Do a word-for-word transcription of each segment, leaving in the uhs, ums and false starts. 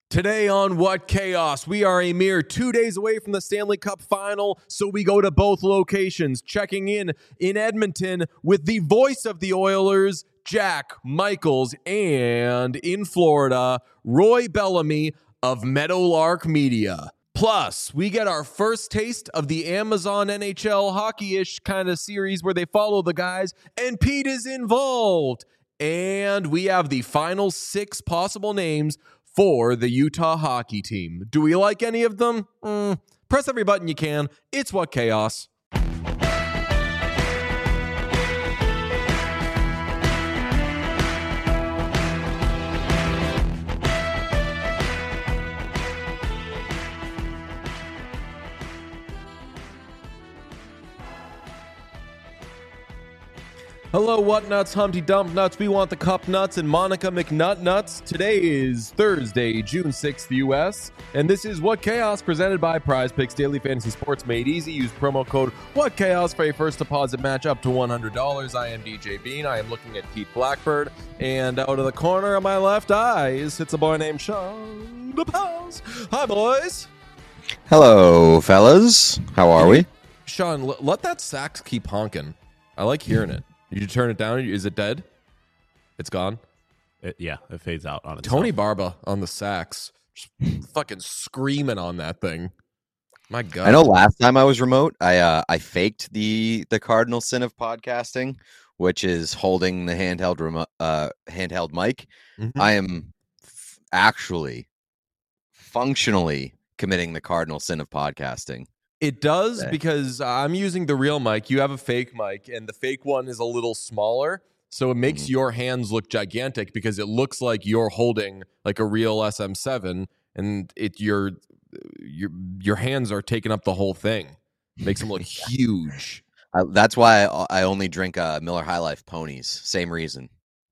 Today on What Chaos, we are a mere two days away from the Stanley Cup Final, so we go to both locations, checking in in Edmonton with the voice of the Oilers, Jack Michaels, and in Florida, Roy Bellamy of Meadowlark Media. Plus, we get our first taste of the Amazon N H L hockey-ish kind of series where they follow the guys, and Pete is involved. And we have the final six possible names for the Utah hockey team. Do we like any of them? Mm, press every button you can. It's What Chaos. Hello, What Nuts, Humpty Dump Nuts. We want the Cup Nuts and Monica McNut Nuts. Today is Thursday, June sixth, U S, and this is What Chaos, presented by Prize Picks Daily Fantasy Sports Made Easy. Use promo code What Chaos for a first deposit match up to one hundred dollars. I am D J Bean. I am looking at Pete Blackbird, and out of the corner of my left eye sits a boy named Sean DePaz. Hi, boys. Hello, fellas. How are we? Sean, l- let that sax keep honking. I like hearing it. Did you turn it down? Is it dead? It's gone? It, yeah, it fades out on itself. Tony Barba on the sax. Just fucking screaming on that thing. My God. I know last time I was remote, I uh, I faked the the cardinal sin of podcasting, which is holding the handheld remote, uh, handheld mic. Mm-hmm. I am f- actually functionally committing the cardinal sin of podcasting. It does, Okay. because I'm using the real mic. You have a fake mic, and the fake one is a little smaller, so it makes Mhm. your hands look gigantic because it looks like you're holding like a real S M seven, and it your your your hands are taking up the whole thing. Makes them look huge. I, that's why I, I only drink uh, Miller High Life ponies. Same reason.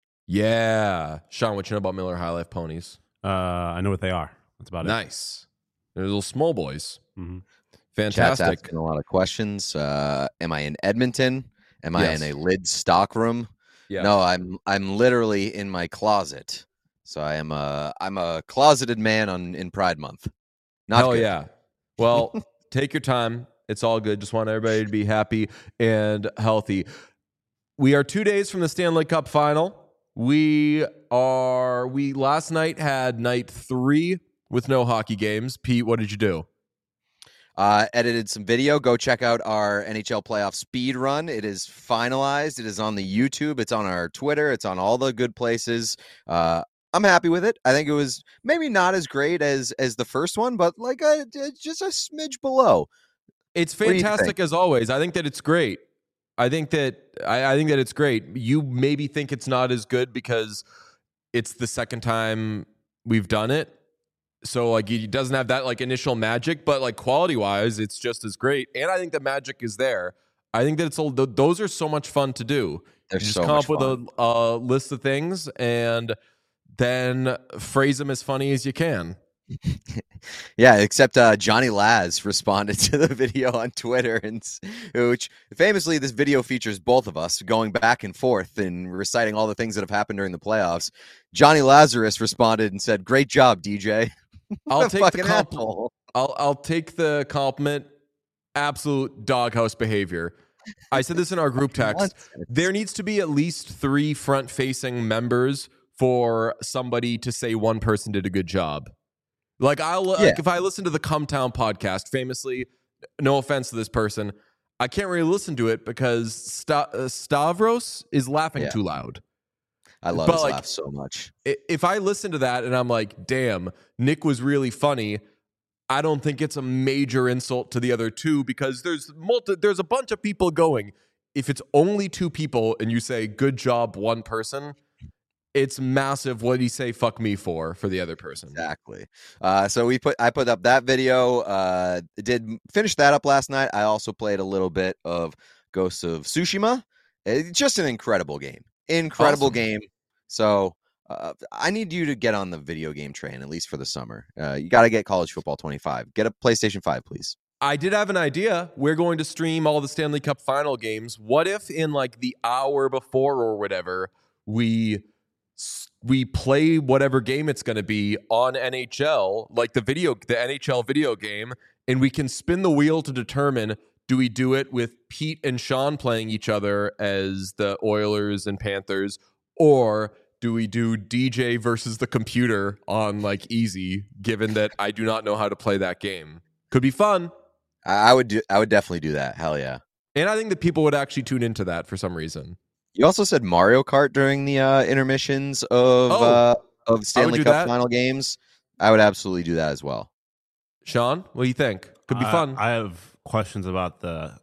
Yeah, Sean, what you know about Miller High Life ponies? Uh, I know what they are. That's about Nice. They're little small boys. it. Mm-hmm. Chat's Fantastic. asking a lot of questions. Uh, am I in Edmonton? Am I Yes. in a lid stock room? Yeah. No, I'm I'm literally in my closet. So I am a I'm a closeted man on in Pride Month. Not Hell good. yeah. Well, take your time. It's all good. Just want everybody to be happy and healthy. We are two days from the Stanley Cup Final. We are we last night had night three with no hockey games. Pete, what did you do? Uh, edited some video. Go check out our N H L playoff speed run. It is finalized. It is on the YouTube. It's on our Twitter. It's on all the good places. Uh, I'm happy with it. I think it was maybe not as great as as the first one, but like a, just a smidge below. It's What do you fantastic think? as always. I think that it's great. I think that I, I think that it's great. You maybe think it's not as good because it's the second time we've done it. So like it doesn't have that like initial magic, but like quality wise, it's just as great. And I think the magic is there. I think that it's a, th- those are so much fun to do. They're You just so come much up with fun. a, a list of things and then phrase them as funny as you can. Yeah, except uh, Johnny Laz responded to the video on Twitter, and s- which famously this video features both of us going back and forth and reciting all the things that have happened during the playoffs. Johnny Lazarus responded and said, "Great job, D J." I'll What a take the fucking compliment. asshole. I'll I'll take the compliment. Absolute doghouse behavior. I said this in our group text. Nonsense. There needs to be at least three front-facing members for somebody to say one person did a good job. Like I'll Yeah. like if I listen to the Come Town podcast, famously, no offense to this person, I can't really listen to it because Sta- uh, Stavros is laughing Yeah. too loud. I love But, his like, laugh so much. I- If I listen to that and I'm like, damn, Nick was really funny, I don't think it's a major insult to the other two because there's multi- there's a bunch of people going. If it's only two people and you say good job one person, it's massive. What did he say fuck me for for the other person? Exactly. Uh, so we put I put up that video. Uh, did finish that up last night. I also played a little bit of Ghosts of Tsushima. It's just an incredible game. Incredible Awesome. game. So uh, I need you to get on the video game train at least for the summer. Uh, you got to get College Football twenty-five. Get a PlayStation five, please. I did have an idea. We're going to stream all the Stanley Cup final games. What if in like the hour before or whatever, we s- we play whatever game it's going to be on N H L, like the video, the N H L video game, and we can spin the wheel to determine, do we do it with Pete and Sean playing each other as the Oilers and Panthers, or do we do D J versus the computer on like easy, given that I do not know how to play that game? Could be fun. I I would do. I would definitely do that. Hell yeah. And I think that people would actually tune into that for some reason. You also said Mario Kart during the uh, intermissions of Oh, uh, of Stanley do Cup that. final games. I would absolutely do that as well. Sean, what do you think? Could be I- fun. I have questions about the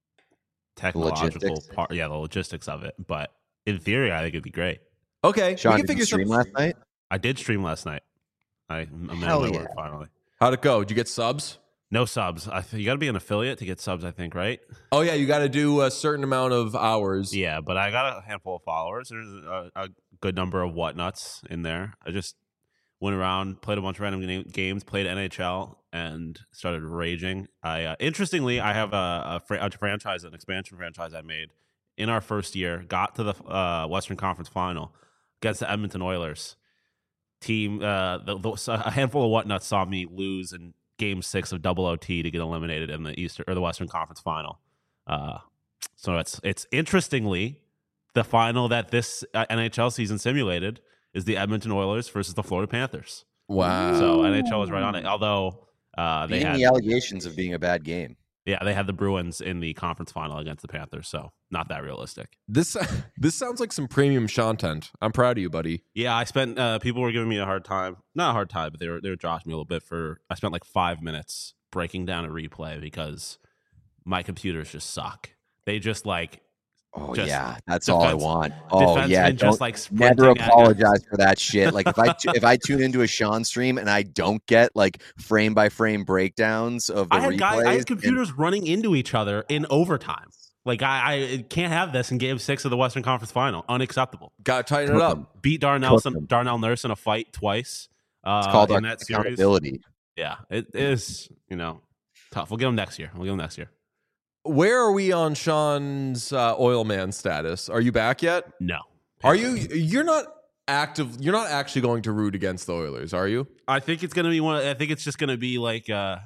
technological Logistics? part. Yeah, the logistics of it. But in theory, I think it'd be great. Okay, Sean, we can did you figure stream some. last night? I did stream last night. I I'm in Hell my yeah. work finally. How'd it go? Did you get subs? No subs. I th- you got to be an affiliate to get subs, I think, right? Oh yeah, you got to do a certain amount of hours. Yeah, but I got a handful of followers. There's a, a good number of whatnuts in there. I just went around, played a bunch of random ga- games, played N H L, and started raging. I uh, interestingly, I have a, a, fr- a franchise, an expansion franchise I made in our first year. Got to the uh, Western Conference Final against the Edmonton Oilers team. Uh, the, the, a handful of whatnuts saw me lose in Game Six of double O T to get eliminated in the Eastern or the Western Conference Final. Uh, so it's it's interestingly the final that this uh, N H L season simulated is the Edmonton Oilers versus the Florida Panthers. Wow. So N H L was right on it. Although uh, they Beating had the allegations of being a bad game. yeah they had the Bruins in the conference final against the Panthers. So not that realistic. This this sounds like some premium content. I'm proud of you, buddy. Yeah, I spent. Uh, people were giving me a hard time. Not a hard time, but they were they were joshing me a little bit for. I spent like five minutes breaking down a replay because my computers just suck. They just like Oh Just yeah, that's all I defense- want. Oh defensemen yeah, just don't- like never sprinting at you. apologize for that shit. Like if I tu- if I tune into a Sean stream and I don't get like frame by frame breakdowns of the I had replays, guys, I had and- computers running into each other in overtime. Like I, I can't have this in Game Six of the Western Conference Final. Unacceptable. Got to tighten it Cook up. 'em. Beat Darnell, Cook 'em. Darnell Nurse in a fight twice. Uh, It's called in our that series. accountability. Yeah, it is. You know, tough. We'll get them next year. We'll get them next year. Where are we on Sean's uh, oil man status? Are you back yet? No. Are you? You're not active. You're not actually going to root against the Oilers, are you? I think it's gonna be one. I think it's just gonna be like uh,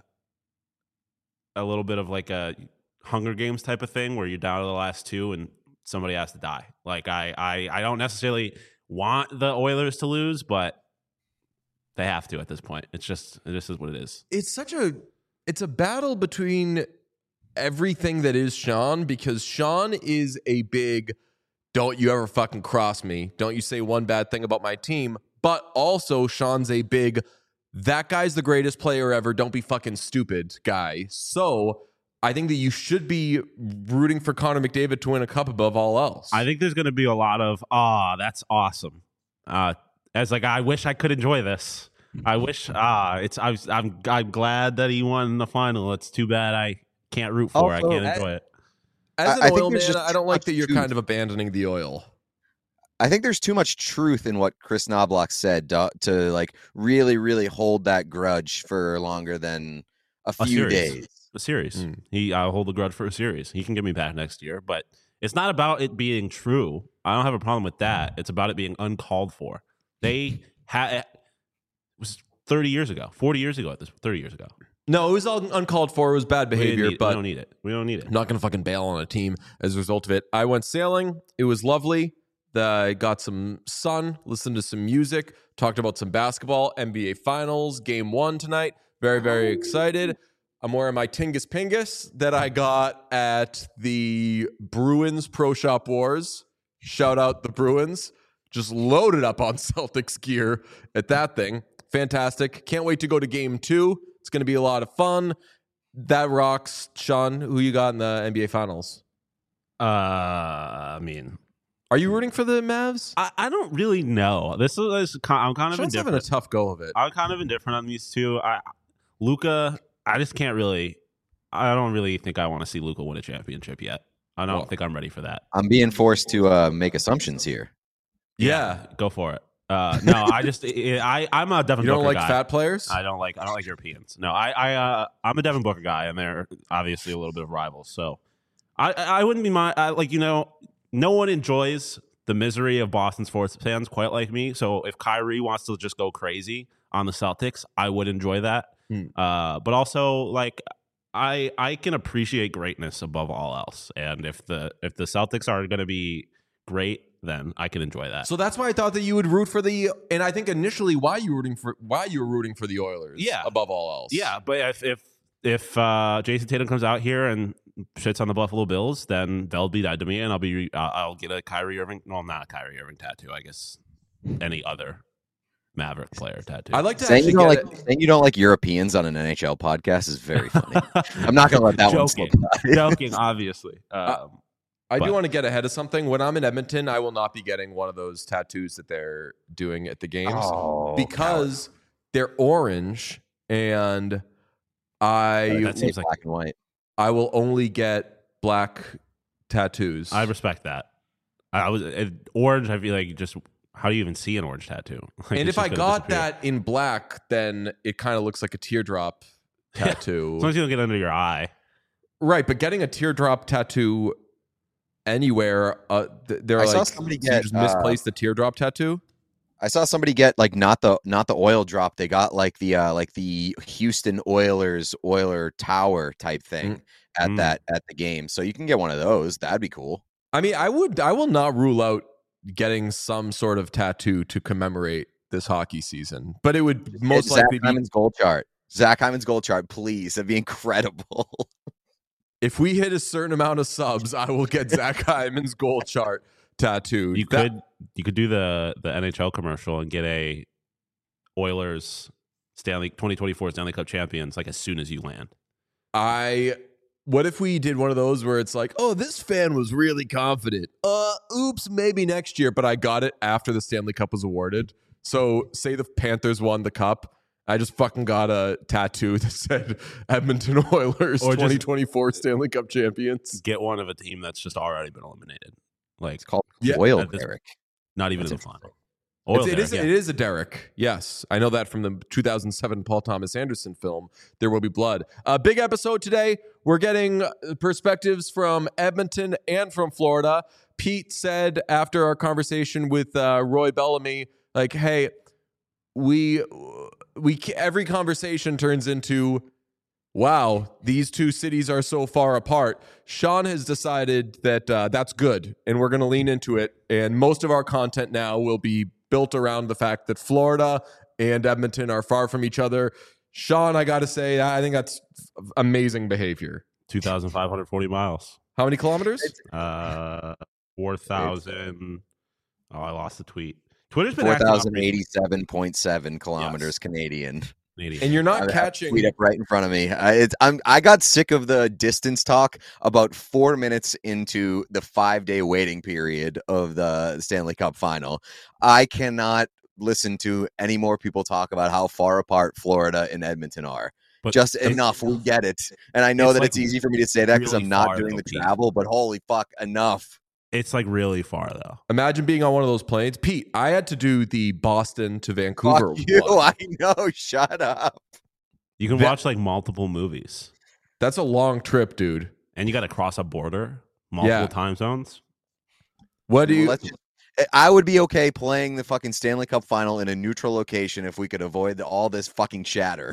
a little bit of like a Hunger Games type of thing where you're down to the last two and somebody has to die. Like I, I, I don't necessarily want the Oilers to lose, but they have to at this point. It's just, it just is what it is. It's such a. It's a battle between everything that is Sean, because Sean is a big don't you ever fucking cross me. Don't you say one bad thing about my team. But also Sean's a big that guy's the greatest player ever. Don't be fucking stupid guy. So I think that you should be rooting for Connor McDavid to win a cup above all else. I think there's going to be a lot of, ah, that's awesome. Uh, as like, I wish I could enjoy this. I wish, ah, it's, I was, I'm, I'm glad that he won the final. It's too bad I can't root for. it. I Also, can't I- enjoy it. As an I- I think oil there's man, just I don't too like much that you're truth. kind of abandoning the oil. I think there's too much truth in what Chris Knobloch said to, to like really, really hold that grudge for longer than a A few series. days. A series. Mm. He, I'll hold the grudge for a series. He can get me back next year, but it's not about it being true. I don't have a problem with that. It's about it being uncalled for. They had it was thirty years ago, forty years ago at this, thirty years ago. No, it was all uncalled for. It was bad We didn't behavior, need- but we don't need it. We don't need it. I'm not going to fucking bail on a team as a result of it. I went sailing. It was lovely. The, I got some sun, listened to some music, talked about some basketball, N B A Finals, game one tonight. Very, very excited. I'm wearing my Tingus Pingus that I got at the Bruins Pro Shop Wars. Shout out the Bruins. Just loaded up on Celtics gear at that thing. Fantastic. Can't wait to go to game two. It's going to be a lot of fun. That rocks. Sean, who you got in the N B A Finals? Uh, I mean, Are you rooting for the Mavs? I, I don't really know. This is I'm kind of Sean's having indifferent. a tough go of it. I'm kind of indifferent on these two. I Luca, I just can't really. I don't really think I want to see Luca win a championship yet. I don't Well, think I'm ready for that. I'm being forced to uh, make assumptions here. Yeah. Go for it. Uh, no, I just I I'm a Devin You don't Booker like guy. fat players? I don't like I don't like Europeans. No, I I uh, I'm a Devin Booker guy, and they're obviously a little bit of rivals. So I I wouldn't be my I, like you know no one enjoys the misery of Boston sports fans quite like me. So if Kyrie wants to just go crazy on the Celtics, I would enjoy that. Hmm. Uh, but also, like, I I can appreciate greatness above all else. And if the if the Celtics are going to be great, then I can enjoy that. So that's why I thought that you would root for the, and I think initially why you were rooting for why you were rooting for the Oilers, Yeah. above all else. Yeah, but if if if uh, Jason Tatum comes out here and shits on the Buffalo Bills, then they'll be that to me, and I'll be uh, I'll get a Kyrie Irving, no, not a Kyrie Irving tattoo. I guess any other Maverick player tattoo. I'd like to Saying actually you don't get like it. saying you don't like Europeans on an N H L podcast is very funny. I'm not gonna let that one slip Joking. by. Joking, obviously. Um, I But- do want to get ahead of something. When I'm in Edmonton, I will not be getting one of those tattoos that they're doing at the games Oh, because they're orange, and I That seems like- black and white. I will only get black tattoos. I respect that. I, I was it, orange. I feel like just how do you even see an orange tattoo? Like, and it's if I just gonna got disappear. that in black, then it kind of looks like a teardrop tattoo. as long as you don't get under your eye. Right, but getting a teardrop tattoo anywhere, uh, th- they're I like, saw somebody so you get, just uh, misplaced the teardrop tattoo. I saw somebody get like not the not the oil drop. They got like the uh like the Houston Oilers Oiler Tower type thing Mm. at Mm. that at the game. So you can get one of those. That'd be cool. I mean, I would, I will not rule out getting some sort of tattoo to commemorate this hockey season, but it would most It's Zach likely be Hyman's goal chart. Zach Hyman's goal chart, please. That'd be incredible. if we hit a certain amount of subs, I will get Zach Hyman's goal chart tattooed. You That- could you could do the the N H L commercial and get a Oilers Stanley twenty twenty-four Stanley Cup champions like as soon as you land. I. What if we did one of those where it's like, oh, this fan was really confident. Uh, oops, maybe next year, but I got it after the Stanley Cup was awarded. So say the Panthers won the cup. I just fucking got a tattoo that said Edmonton Oilers Or just- twenty twenty-four Stanley Cup champions. Get one of a team that's just already been eliminated. Like It's called Yeah, oil, at this- Derek. not even That's in the final. interesting. Oil It's, it, is, Derrick, it yeah. is a Derek. Yes. I know that from the two thousand seven Paul Thomas Anderson film, There Will Be Blood. A big episode today. We're getting uh, perspectives from Edmonton and from Florida. Pete said after our conversation with uh, Roy Bellamy, like, hey, we, we, every conversation turns into, wow, these two cities are so far apart. Sean has decided that uh, that's good, and we're going to lean into it. And most of our content now will be built around the fact that Florida and Edmonton are far from each other. Sean, I got to say, I think that's amazing behavior. two thousand five hundred forty miles. How many kilometers? Uh, four thousand. Oh, I lost the tweet. Twitter's been Four acting up thousand recently. eighty-seven point seven kilometers Yes. Canadian. Canadian. And you're I not have a catching. tweet up right in front of me. I, it's, I'm I got sick of the distance talk about four minutes into the five day waiting period of the Stanley Cup final. I cannot listen to any more people talk about how far apart Florida and Edmonton are. But Just it's- enough. We get it. And I know It's that like it's easy for me to say that because really I'm not far, doing though, the Pete. travel, but holy fuck, enough. It's like really far though. Imagine being on one of those planes. Pete, I had to do the Boston to Vancouver. Fuck you. one. I know. Shut up. You can That- watch like multiple movies, That's a long trip, dude. and you got to cross a border, multiple Yeah. time zones. What do Well, you? let's just- I would be okay playing the fucking Stanley Cup final in a neutral location if we could avoid the, all this fucking chatter.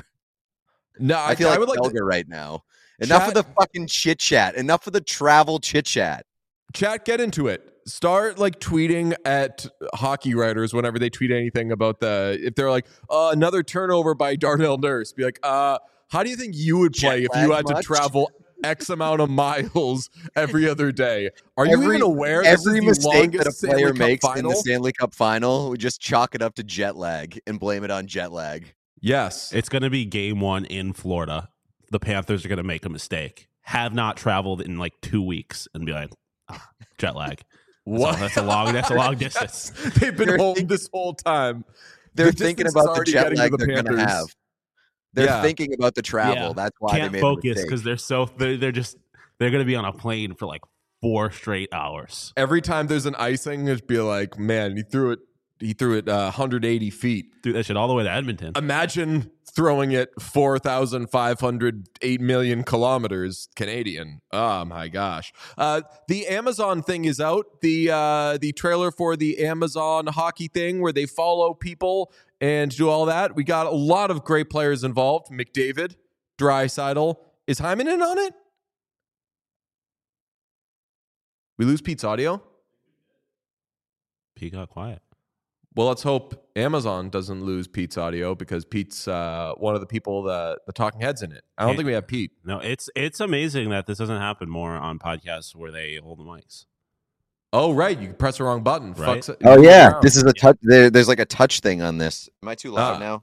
No, I, feel like, would like Helga to, right now. Enough Chat- of the fucking chit chat. Enough of the travel chit chat. chat. Get into it. Start like tweeting at hockey writers whenever they tweet anything about the. If they're like uh, another turnover by Darnell Nurse, be like, uh, how do you think you would play Jet if you lag had to much? travel X amount of miles every other day? Are you Every- even aware this Every is the mistake that a longest player Stanley Cup makes in final? the Stanley Cup final, we just chalk it up to jet lag and blame it on jet lag. Yes, It's going to be game one in Florida. The Panthers are going to make a mistake. Have not traveled in like two weeks and be like, ah, jet lag. That's, what? a, that's a long. That's a long distance. They've been They're home think- this whole time. They're The thinking distance is about the already jet getting to lag the they're going to Panthers. have. They're Yeah. thinking about the travel. Yeah. That's why Can't they made focus the mistake. because they're so they're, they're just they're going to be on a plane for like four straight hours. Every time there's an icing, it'd be like, man, he threw it. He threw it uh, one hundred eighty feet. Dude, that shit all the way to Edmonton. Imagine throwing it four thousand five hundred eight million kilometers Canadian. Oh my gosh. Uh, the Amazon thing is out. The uh, the trailer for the Amazon hockey thing where they follow people and do all that. We got a lot of great players involved. McDavid, Draisaitl. Is Hyman in on it? We lose Pete's audio? Pete got quiet. Well, let's hope Amazon doesn't lose Pete's audio because Pete's uh, one of the people, the, the talking heads in it. I don't Hey, think we have Pete. No, it's it's amazing that this doesn't happen more on podcasts where they hold the mics. Oh, right. You can press the wrong button. Right? Fucks it. Oh yeah, Around. this is a touch. There, there's like a touch thing on this. Am I too loud Ah. now?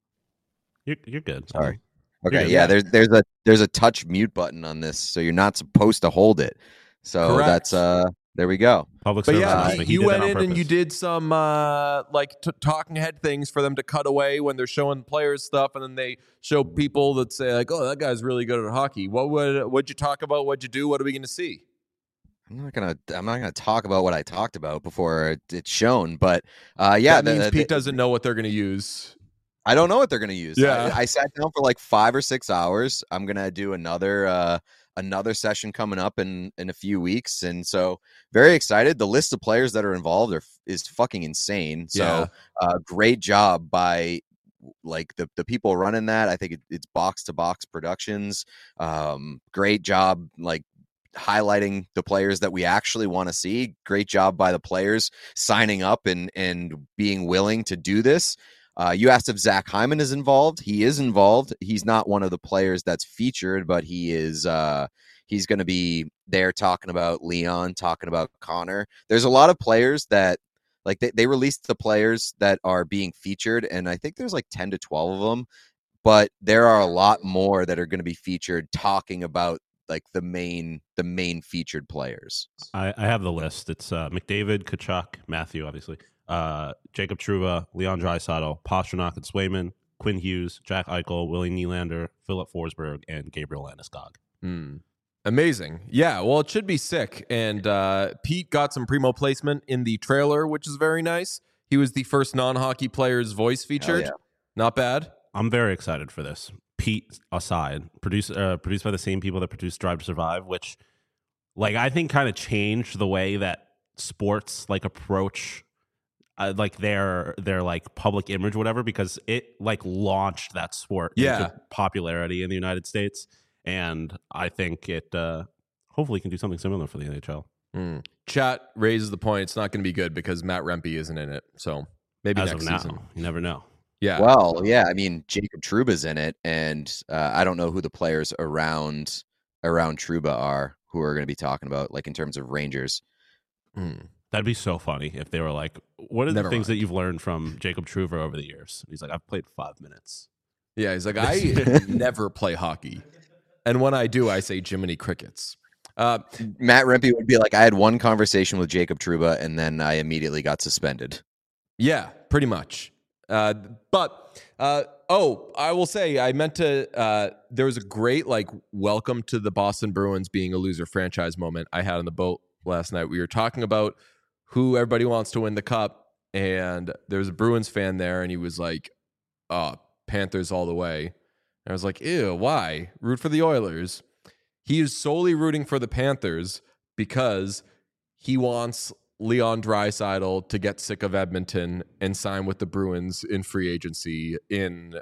You're you're good. Sorry. You're Okay, good. yeah. There's there's a there's a touch mute button on this, so you're not supposed to hold it. So Correct. that's uh. There we go. Public But service yeah, announcement. you, He you did that went on in and you purpose. did some uh, like t- talking head things for them to cut away when they're showing players stuff, and then they show people that say like, "Oh, that guy's really good at hockey." What would what'd you talk about? What'd you do? What are we going to see? I'm not gonna I'm not gonna talk about what I talked about before it, it's shown, but uh, yeah, that the- means the- Pete doesn't know what they're going to use. I don't know what they're gonna use. Yeah. I, I sat down for like five or six hours. I'm gonna do another uh, another session coming up in in a few weeks, and so very excited. The list of players that are involved are is fucking insane. So Yeah. uh, great job by like the the people running that. I think it, it's Box to Box Productions. Um, great job, like highlighting the players that we actually want to see. Great job by the players signing up and and being willing to do this. Uh, you asked if Zach Hyman is involved. He is involved. He's not one of the players that's featured, but he is. Uh, he's going to be there talking about Leon, talking about Connor. There's a lot of players that like they, they released the players that are being featured, and I think there's like ten to twelve of them. But there are a lot more that are going to be featured talking about like the main the main featured players. I, I have the list. It's uh, McDavid, Kachuk, Matthew, obviously, uh, Jacob Trouba, Leon Draisaitl, Pastrnak and Swayman, Quinn Hughes, Jack Eichel, Willie Nylander, Philip Forsberg, and Gabriel Landeskog. Hmm. Amazing. Yeah, well, it should be sick. And uh, Pete got some primo placement in the trailer, which is very nice. He was the first non-hockey player's voice featured. yeah. Not bad. I'm very excited for this. Pete aside, produced uh, produced by the same people that produced Drive to Survive, which, like, I think kind of changed the way that sports like approach, uh, like their their like public image, whatever, because it like launched that sport Yeah. into popularity in the United States, and I think it uh, hopefully can do something similar for the N H L. Hmm. Chat raises the point. It's not going to be good because Matt Rempe isn't in it. So maybe As next of now, season. you never know. Yeah. Well, yeah, I mean Jacob Trouba's in it, and uh, I don't know who the players around around Trouba are who are going to be talking about, like in terms of Rangers. Hmm. That'd be so funny if they were like, "What are Never the things mind. that you've learned from Jacob Trouba over the years?" He's like, "I've played five minutes." Yeah, he's like, I never play hockey. And when I do, I say Jiminy Crickets. Uh, Matt Rempe would be like, I had one conversation with Jacob Trouba, and then I immediately got suspended. Yeah, pretty much. Uh, but uh, oh, I will say I meant to. Uh, there was a great like welcome to the Boston Bruins being a loser franchise moment I had on the boat last night. We were talking about who everybody wants to win the cup, and there was a Bruins fan there, and he was like, "Oh, Panthers all the way." And I was like, "Ew, why? Root for the Oilers." He is solely rooting for the Panthers because he wants Leon Draisaitl to get sick of Edmonton and sign with the Bruins in free agency in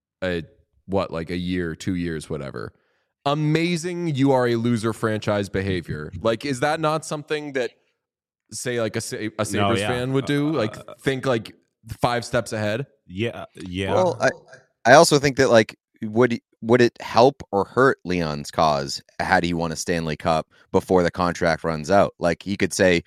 a what, like a year, two years, whatever. Amazing. You are a loser franchise behavior. Like, is that not something that, say, like a, Sa- a Sabres yeah. fan would do? Like, Uh, think like five steps ahead? Yeah, yeah. Well, I, I also think that like would would it help or hurt Leon's cause had he won a Stanley Cup before the contract runs out? Like he could say,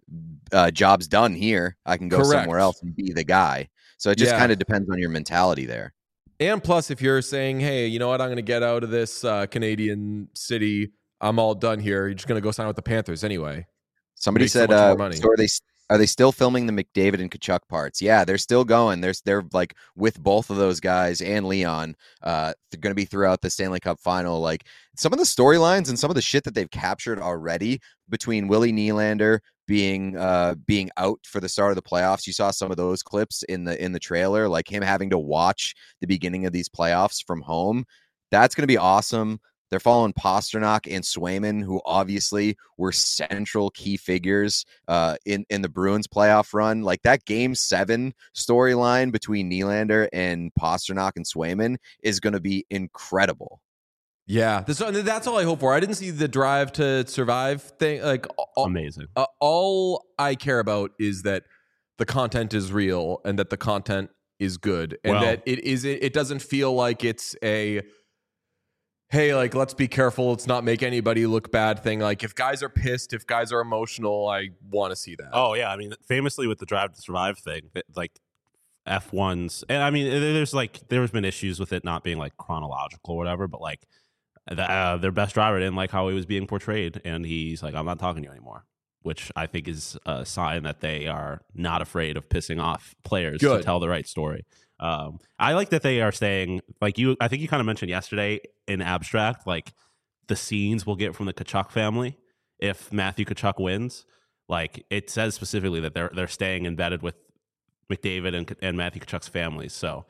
uh, "Job's done here. I can go Correct. somewhere else and be the guy." So it just Yeah. kind of depends on your mentality there. And plus, if you're saying, hey, you know what, I'm going to get out of this uh, Canadian city, I'm all done here. You're just going to go sign with the Panthers anyway. Somebody Make so said, much uh, more money. so are they? Are they still filming the McDavid and Kachuk parts? Yeah, they're still going. They're they're like with both of those guys and Leon. Uh, they're going to be throughout the Stanley Cup final. Like some of the storylines and some of the shit that they've captured already between Willie Nylander being uh being out for the start of the playoffs. You saw some of those clips in the in the trailer, like him having to watch the beginning of these playoffs from home. That's going to be awesome. They're following Pastrnak and Swayman, who obviously were central key figures uh, in, in the Bruins playoff run. Like that game seven storyline between Nylander and Pastrnak and Swayman is going to be incredible. Yeah, this, that's all I hope for. I didn't see the Drive to Survive thing. Like all, Amazing. Uh, all I care about is that the content is real and that the content is good, and Well, that it is. It doesn't feel like it's a hey, like, let's be careful, let's not make anybody look bad thing. Like, if guys are pissed, if guys are emotional, I want to see that. Oh, yeah. I mean, famously with the Drive to Survive thing, like F ones, and I mean, there's like, there's been issues with it not being like chronological or whatever, but like the, uh, their best driver didn't like how he was being portrayed, and he's like, I'm not talking to you anymore, which I think is a sign that they are not afraid of pissing off players Good. to tell the right story. Um, I like that they are saying, like you, I think you kind of mentioned yesterday in abstract, like the scenes we'll get from the Kachuk family if Matthew Kachuk wins. Like it says specifically that they're they're staying embedded with McDavid and and Matthew Kachuk's families. So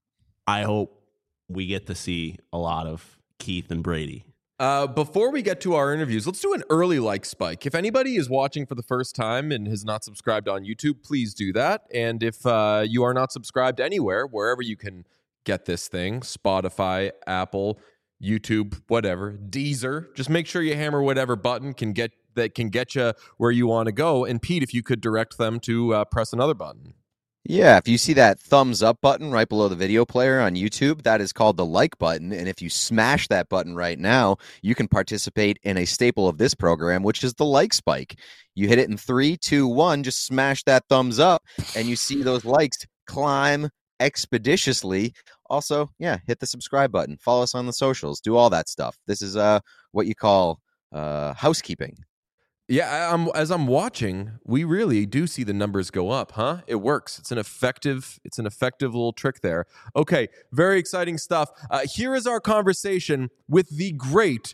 I hope we get to see a lot of Keith and Brady. Uh, before we get to our interviews, let's do an early like spike. If anybody is watching for the first time and has not subscribed on YouTube, please do that. And if uh, you are not subscribed anywhere, wherever you can get this thing, Spotify, Apple, YouTube, whatever, Deezer, just make sure you hammer whatever button can get that can get you where you want to go. And Pete, if you could direct them to uh, press another button. Yeah, if you see that thumbs up button right below the video player on YouTube, that is called the like button. And if you smash that button right now, you can participate in a staple of this program, which is the like spike. You hit it in three, two, one, just smash that thumbs up, and you see those likes climb expeditiously. Also, yeah, hit the subscribe button. Follow us on the socials. Do all that stuff. This is uh what you call uh housekeeping. Yeah, I'm, as I'm watching, we really do see the numbers go up, huh? It works. It's an effective, it's an effective little trick there. Okay, very exciting stuff. Uh, here is our conversation with the great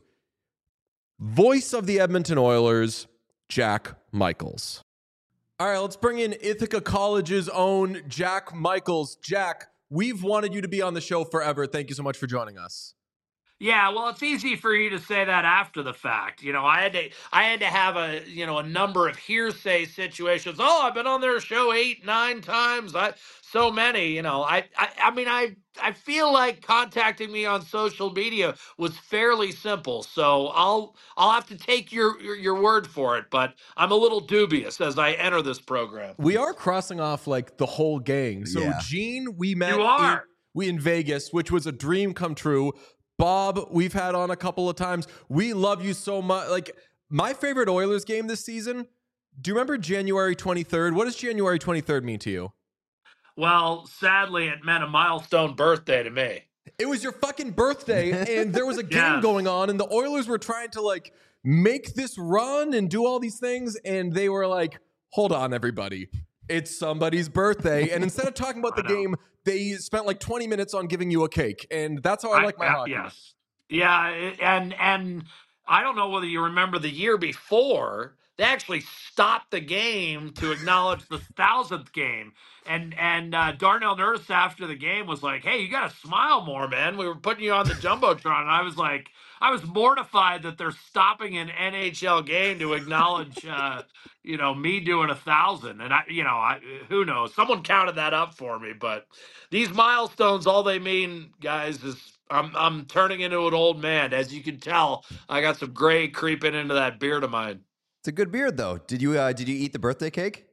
voice of the Edmonton Oilers, Jack Michaels. All right, let's bring in Ithaca College's own Jack Michaels. Jack, we've wanted you to be on the show forever. Thank you so much for joining us. Yeah, well, it's easy for you to say that after the fact. You know, I had to I had to have a, you know, a number of hearsay situations. Oh, I've been on their show eight, nine times. I so many, you know. I I, I mean, I I feel like contacting me on social media was fairly simple. So I'll I'll have to take your your, your word for it, but I'm a little dubious as I enter this program. We are crossing off like the whole gang. So Yeah. Gene, we met You are. in, we in Vegas, which was a dream come true. Bob, we've had on a couple of times. We love you so much. Like, my favorite Oilers game this season, do you remember January twenty-third? What does January twenty-third mean to you? Well, sadly, it meant a milestone birthday to me. It was your fucking birthday, and there was a game Yes. going on, and the Oilers were trying to, like, make this run and do all these things, and they were like, hold on, everybody. It's somebody's birthday. And instead of talking about the I know. game, they spent like twenty minutes on giving you a cake. And that's how I, like my uh, hockey. Yes. Yeah, it- and and I don't know whether you remember the year before, they actually stopped the game to acknowledge the thousandth game. And and uh, Darnell Nurse after the game was like, "Hey, you got to smile more, man. We were putting you on the jumbotron." And I was like, I was mortified that they're stopping an N H L game to acknowledge, uh, you know, me doing a thousand. And I, you know, I who knows? Someone counted that up for me. But these milestones, all they mean, guys, is I'm I'm turning into an old man. As you can tell, I got some gray creeping into that beard of mine. It's a good beard, though. Did you uh, did you eat the birthday cake?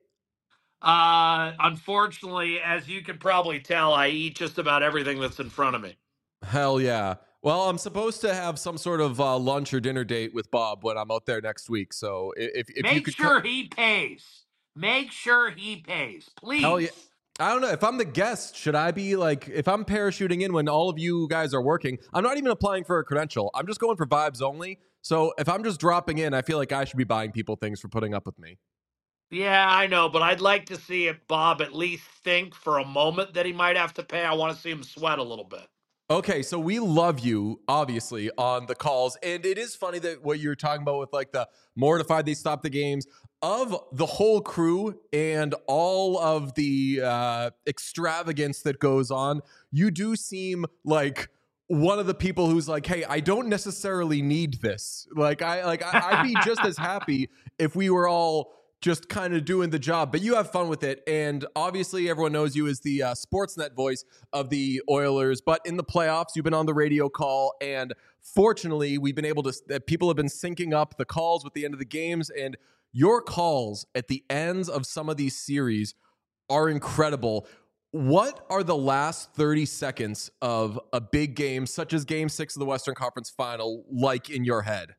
Uh, unfortunately, as you can probably tell, I eat just about everything that's in front of me. Hell yeah. Well, I'm supposed to have some sort of uh, lunch or dinner date with Bob when I'm out there next week. So i- if, if you Make could sure co- he pays. Make sure he pays, please. Hell yeah. I don't know. If I'm the guest, should I be like, if I'm parachuting in when all of you guys are working, I'm not even applying for a credential. I'm just going for vibes only. So if I'm just dropping in, I feel like I should be buying people things for putting up with me. Yeah, I know, but I'd like to see it, Bob, at least think for a moment that he might have to pay. I want to see him sweat a little bit. Okay, so we love you, obviously, on the calls. And it is funny that what you're talking about with like the mortified they stop the games of the whole crew and all of the uh, extravagance that goes on. You do seem like one of the people who's like, hey, I don't necessarily need this. Like I like I, I'd be just as happy if we were all just kind of doing the job, but you have fun with it. And obviously everyone knows you as the uh, Sportsnet voice of the Oilers, but in the playoffs, you've been on the radio call. And fortunately we've been able to, uh, people have been syncing up the calls with the end of the games, and your calls at the ends of some of these series are incredible. What are the last thirty seconds of a big game, such as game six of the Western Conference Final, like in your head?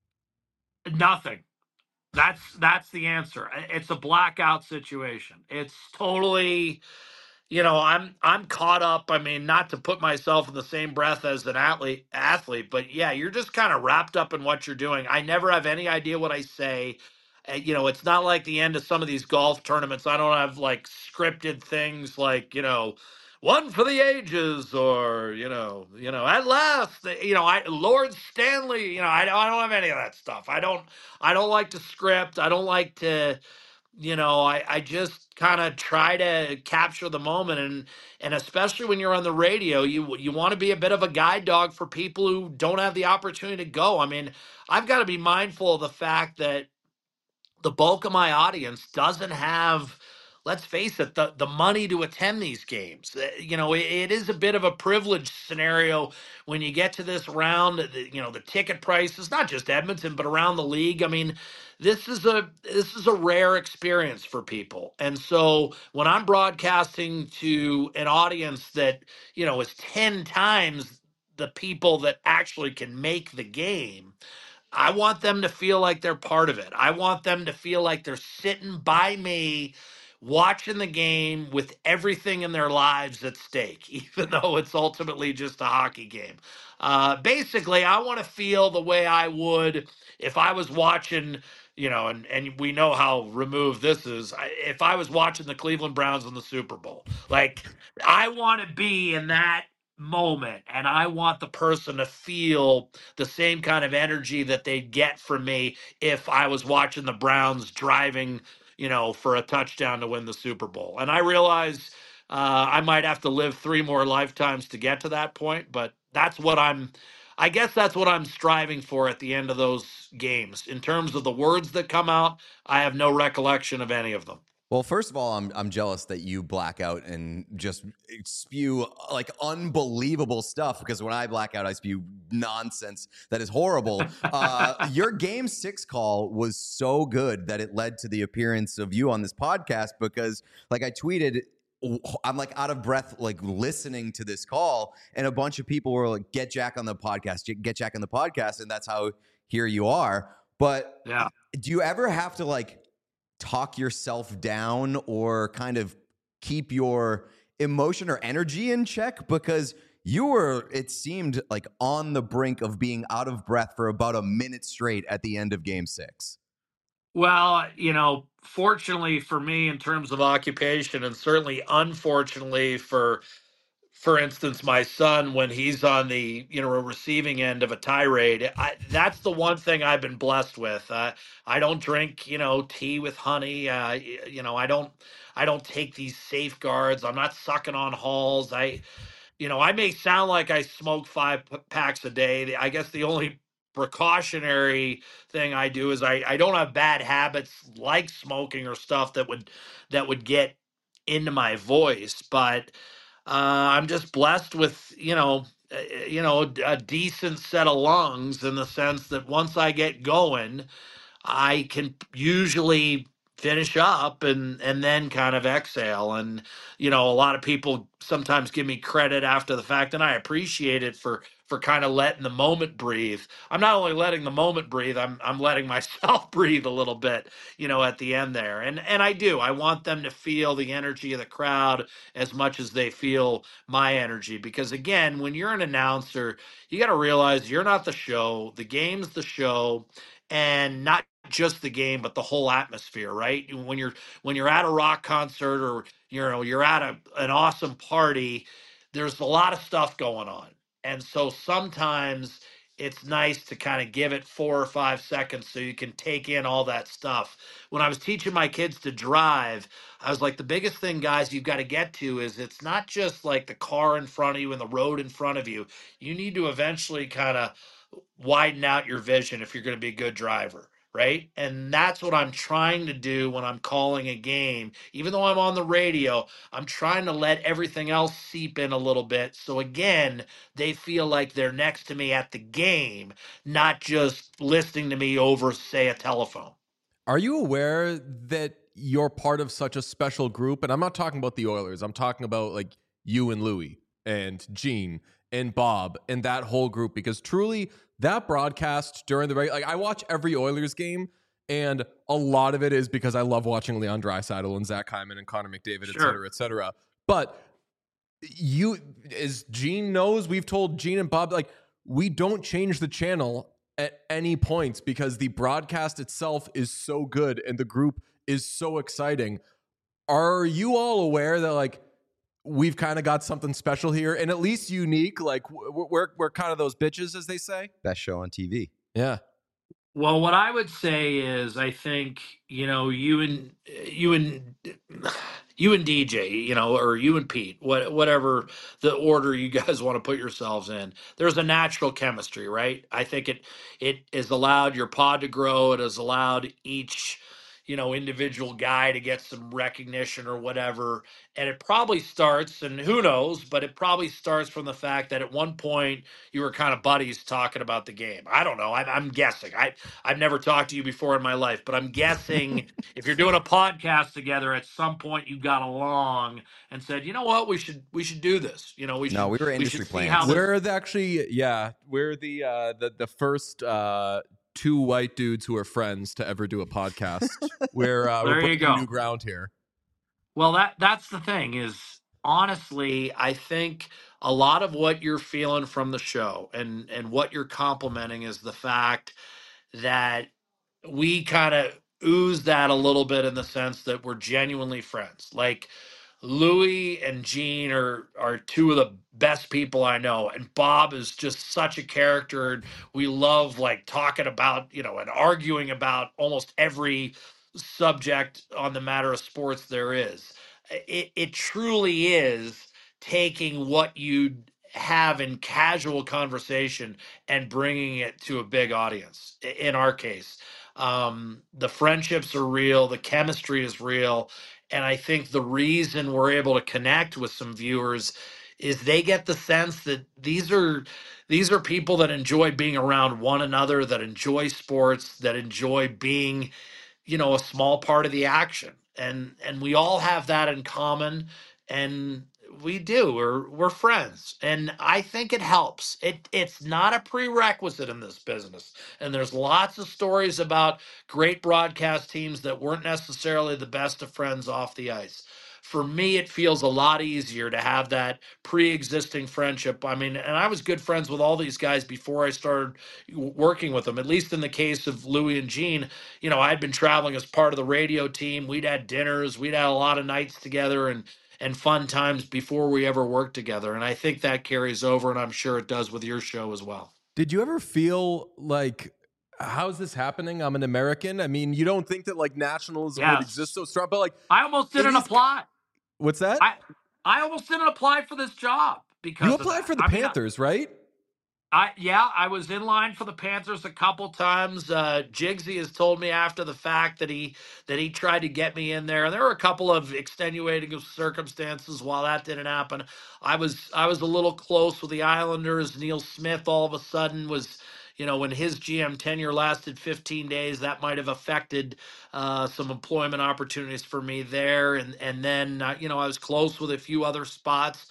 Nothing. That's that's the answer. It's a blackout situation. It's totally, you know, I'm I'm caught up. I mean, not to put myself in the same breath as an athlete athlete, but yeah, you're just kind of wrapped up in what you're doing. I never have any idea what I say. Uh, you know, it's not like the end of some of these golf tournaments. I don't have like scripted things like, you know, one for the ages, or, you know, you know, at last, you know, I Lord Stanley, you know, I, I don't have any of that stuff. I don't I don't like to script. I don't like to, you know, I, I just kind of try to capture the moment. And and especially when you're on the radio, you you want to be a bit of a guide dog for people who don't have the opportunity to go. I mean, I've got to be mindful of the fact that the bulk of my audience doesn't have, let's face it, the, the money to attend these games. Uh, you know, it, it is a bit of a privileged scenario when you get to this round. The, you know, the ticket prices, not just Edmonton, but around the league. I mean, this is a this is a rare experience for people. And so when I'm broadcasting to an audience that, you know, is ten times the people that actually can make the game, I want them to feel like they're part of it. I want them to feel like they're sitting by me watching the game with everything in their lives at stake, even though it's ultimately just a hockey game. Uh, basically, I want to feel the way I would if I was watching, you know, and, and we know how removed this is. I- If I was watching the Cleveland Browns in the Super Bowl, like I want to be in that moment, and I want the person to feel the same kind of energy that they'd get from me if I was watching the Browns driving, you know, for a touchdown to win the Super Bowl. And I realize uh, I might have to live three more lifetimes to get to that point, but that's what I'm, I guess that's what I'm striving for at the end of those games. In terms of the words that come out, I have no recollection of any of them. Well, first of all, I'm I'm jealous that you black out and just spew like unbelievable stuff, because when I black out, I spew nonsense that is horrible. Uh, your game six call was so good that it led to the appearance of you on this podcast, because like I tweeted, I'm like out of breath, like listening to this call, and a bunch of people were like, "Get Jack on the podcast, get Jack on the podcast," and that's how here you are. But Yeah. do you ever have to like talk yourself down or kind of keep your emotion or energy in check? Because you were, it seemed like, on the brink of being out of breath for about a minute straight at the end of game six. Well, you know, fortunately for me in terms of occupation, and certainly unfortunately for for instance, my son, when he's on the, you know, receiving end of a tirade, I, that's the one thing I've been blessed with. Uh, I don't drink, you know, tea with honey. Uh, y- you know, I don't, I don't take these safeguards. I'm not sucking on halls. I, you know, I may sound like I smoke five p- packs a day. The- I guess the only precautionary thing I do is I, I don't have bad habits like smoking or stuff that would that would get into my voice, but uh, I'm just blessed with, you know, uh, you know, a decent set of lungs, in the sense that once I get going, I can usually finish up and and then kind of exhale. And you know, a lot of people sometimes give me credit after the fact, and I appreciate it for for kind of letting the moment breathe. I'm not only letting the moment breathe, I'm I'm letting myself breathe a little bit, you know, at the end there. And and I do. I want them to feel the energy of the crowd as much as they feel my energy, because again, when you're an announcer, you got to realize you're not the show. The game's the show, and not just the game, but the whole atmosphere, right? When you're when you're at a rock concert or you know you're at a, an awesome party, there's a lot of stuff going on, and so sometimes it's nice to kind of give it four or five seconds so you can take in all that stuff. When I was teaching my kids to drive, I was like, the biggest thing, guys, you've got to get to is it's not just like the car in front of you and the road in front of you. You need to eventually kind of widen out your vision if you're going to be a good driver, right? And that's what I'm trying to do when I'm calling a game. Even though I'm on the radio, I'm trying to let everything else seep in a little bit. So again, they feel like they're next to me at the game, not just listening to me over, say, a telephone. Are you aware that you're part of such a special group? And I'm not talking about the Oilers. I'm talking about like you and Louie and Gene and Bob and that whole group, because truly that broadcast during the, like I watch every Oilers game, and a lot of it is because I love watching Leon Draisaitl and Zach Hyman and Connor McDavid, Sure. et cetera, et cetera. But you, as Gene knows, we've told Gene and Bob, like, we don't change the channel at any points because the broadcast itself is so good and the group is so exciting. Are you all aware that like we've kind of got something special here and at least unique? Like we're we're, we're kind of those bitches, as they say. Best show on T V. Yeah. Well, what I would say is, I think you know you and you and you and D J, you know, or you and Pete, what whatever the order you guys want to put yourselves in. There's a natural chemistry, right? I think it it has allowed your pod to grow. It has allowed each you know individual guy to get some recognition or whatever. And it probably starts, and who knows, but it probably starts from the fact that at one point you were kind of buddies talking about the game. I don't know. I'm, I'm guessing. I I've never talked to you before in my life, but I'm guessing if you're doing a podcast together, at some point you got along and said, you know what, we should we should do this. You know, we should. No, we were we industry should see plans. how this- We're the actually, yeah, we're the uh, the the first uh, two white dudes who are friends to ever do a podcast. we're uh, There we're you breaking go. new ground here. Well, that that's the thing is, honestly, I think a lot of what you're feeling from the show and and what you're complimenting is the fact that we kind of ooze that a little bit in the sense that we're genuinely friends. Like Louie and Gene are are two of the best people I know, and Bob is just such a character, and we love like talking about you know and arguing about almost every subject on the matter of sports there is. It it truly is taking what you have in casual conversation and bringing it to a big audience. I- In our case, um, the friendships are real, the chemistry is real, and I think the reason we're able to connect with some viewers is they get the sense that these are these are people that enjoy being around one another, that enjoy sports, that enjoy being you know a small part of the action, and and we all have that in common, and we do we're we're friends, and I think it helps. It it's not a prerequisite in this business, and there's lots of stories about great broadcast teams that weren't necessarily the best of friends off the ice. For me, it feels a lot easier to have that pre-existing friendship. I mean, and I was good friends with all these guys before I started w- working with them, at least in the case of Louie and Gene. You know, I'd been traveling as part of the radio team. We'd had dinners, we'd had a lot of nights together and and fun times before we ever worked together. And I think that carries over, and I'm sure it does with your show as well. Did you ever feel like, how's this happening? I'm an American. I mean, you don't think that like nationalism would Yes. exist so strong, but like, I almost didn't It is- apply. what's that? I I almost didn't apply for this job because you of applied that. for the I mean, I- Panthers, right? I yeah, I was in line for the Panthers a couple times. Uh, Jigsy has told me after the fact that he that he tried to get me in there. There were a couple of extenuating circumstances while that didn't happen. I was I was a little close with the Islanders. Neil Smith all of a sudden was, you know, when his G M tenure lasted fifteen days, that might have affected uh, some employment opportunities for me there. And and then uh, you know I was close with a few other spots.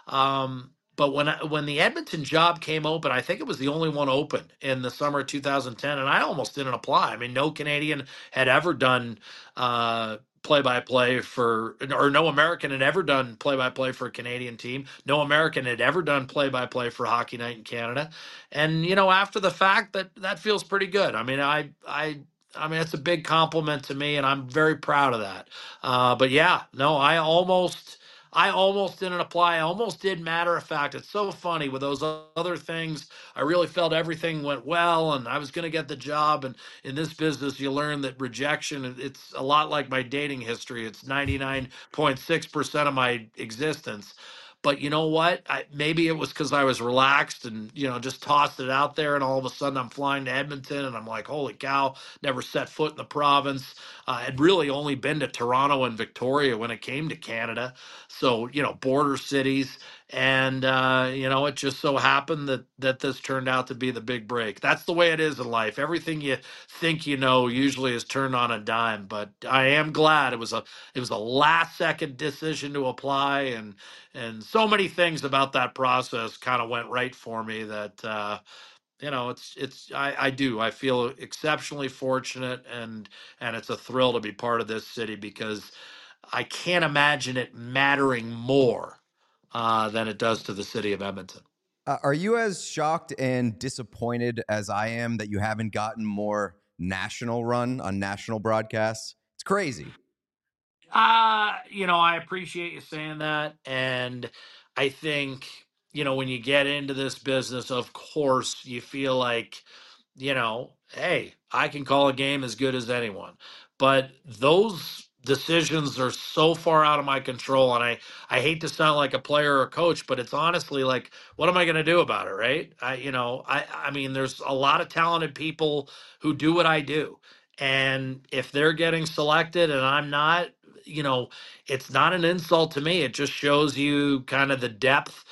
Um, but when I, when the Edmonton job came open, I think it was the only one open in the summer of two thousand ten, and I almost didn't apply. I mean, no Canadian had ever done uh, play-by-play for, or no American had ever done play-by-play for a Canadian team. No American had ever done play-by-play for Hockey Night in Canada. And you know, after the fact, that that feels pretty good. I mean, I I I mean, it's a big compliment to me, and I'm very proud of that. Uh, but yeah, no, I almost, I almost didn't apply. I almost did. Matter of fact, it's so funny with those other things. I really felt everything went well, and I was going to get the job. And in this business, you learn that rejection, it- it's a lot like my dating history. It's ninety-nine point six percent of my existence. But you know what? I, maybe it was because I was relaxed and, you know, just tossed it out there. And all of a sudden I'm flying to Edmonton and I'm like, holy cow, never set foot in the province. Uh, I'd really only been to Toronto and Victoria when it came to Canada. So, you know, border cities. And, uh, you know, it just so happened that, that this turned out to be the big break. That's the way it is in life. Everything you think you know usually is turned on a dime. But I am glad it was a, it was a last second decision to apply. And, and so many things about that process kind of went right for me that uh, you know it's it's I, I do I feel exceptionally fortunate, and and it's a thrill to be part of this city because I can't imagine it mattering more uh, than it does to the city of Edmonton. Uh, are you as shocked and disappointed as I am that you haven't gotten more national run on national broadcasts? It's crazy. Uh, you know, I appreciate you saying that. And I think, you know, when you get into this business, of course, you feel like, you know, hey, I can call a game as good as anyone. But those decisions are so far out of my control. And I, I hate to sound like a player or a coach, but it's honestly like, what am I going to do about it? Right. I, you know, I, I mean, there's a lot of talented people who do what I do. And if they're getting selected and I'm not, you know, it's not an insult to me. It just shows you kind of the depth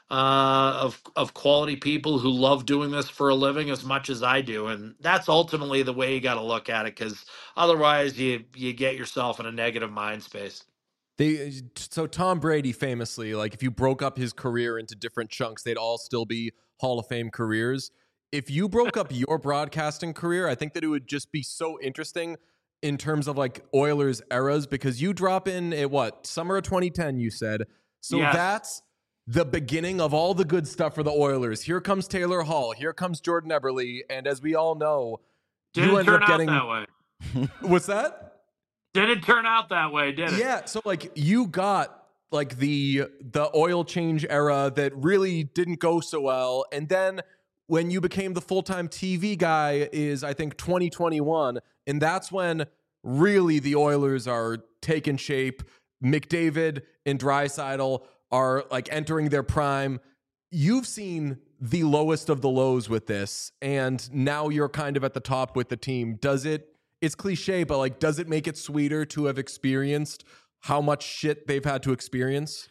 uh, of of quality people who love doing this for a living as much as I do, and that's ultimately the way you got to look at it. Because otherwise, you you get yourself in a negative mind space. They so Tom Brady famously, like if you broke up his career into different chunks, they'd all still be Hall of Fame careers. If you broke up your broadcasting career, I think that it would just be so interesting in terms of like Oilers eras, because you drop in at what, summer of twenty ten, you said. So Yes. that's the beginning of all the good stuff for the Oilers. Here comes Taylor Hall, here comes Jordan Eberle, and as we all know, Didn't you ended turn up out getting that way. what's that? Didn't turn out that way, did it? Yeah, so like you got like the the oil change era that really didn't go so well, and then when you became the full-time T V guy is I think twenty twenty-one, and that's when really the Oilers are taking shape. McDavid and Draisaitl are like entering their prime. You've seen the lowest of the lows with this, and now you're kind of at the top with the team. Does it It's cliche, but like, does it make it sweeter to have experienced how much shit they've had to experience?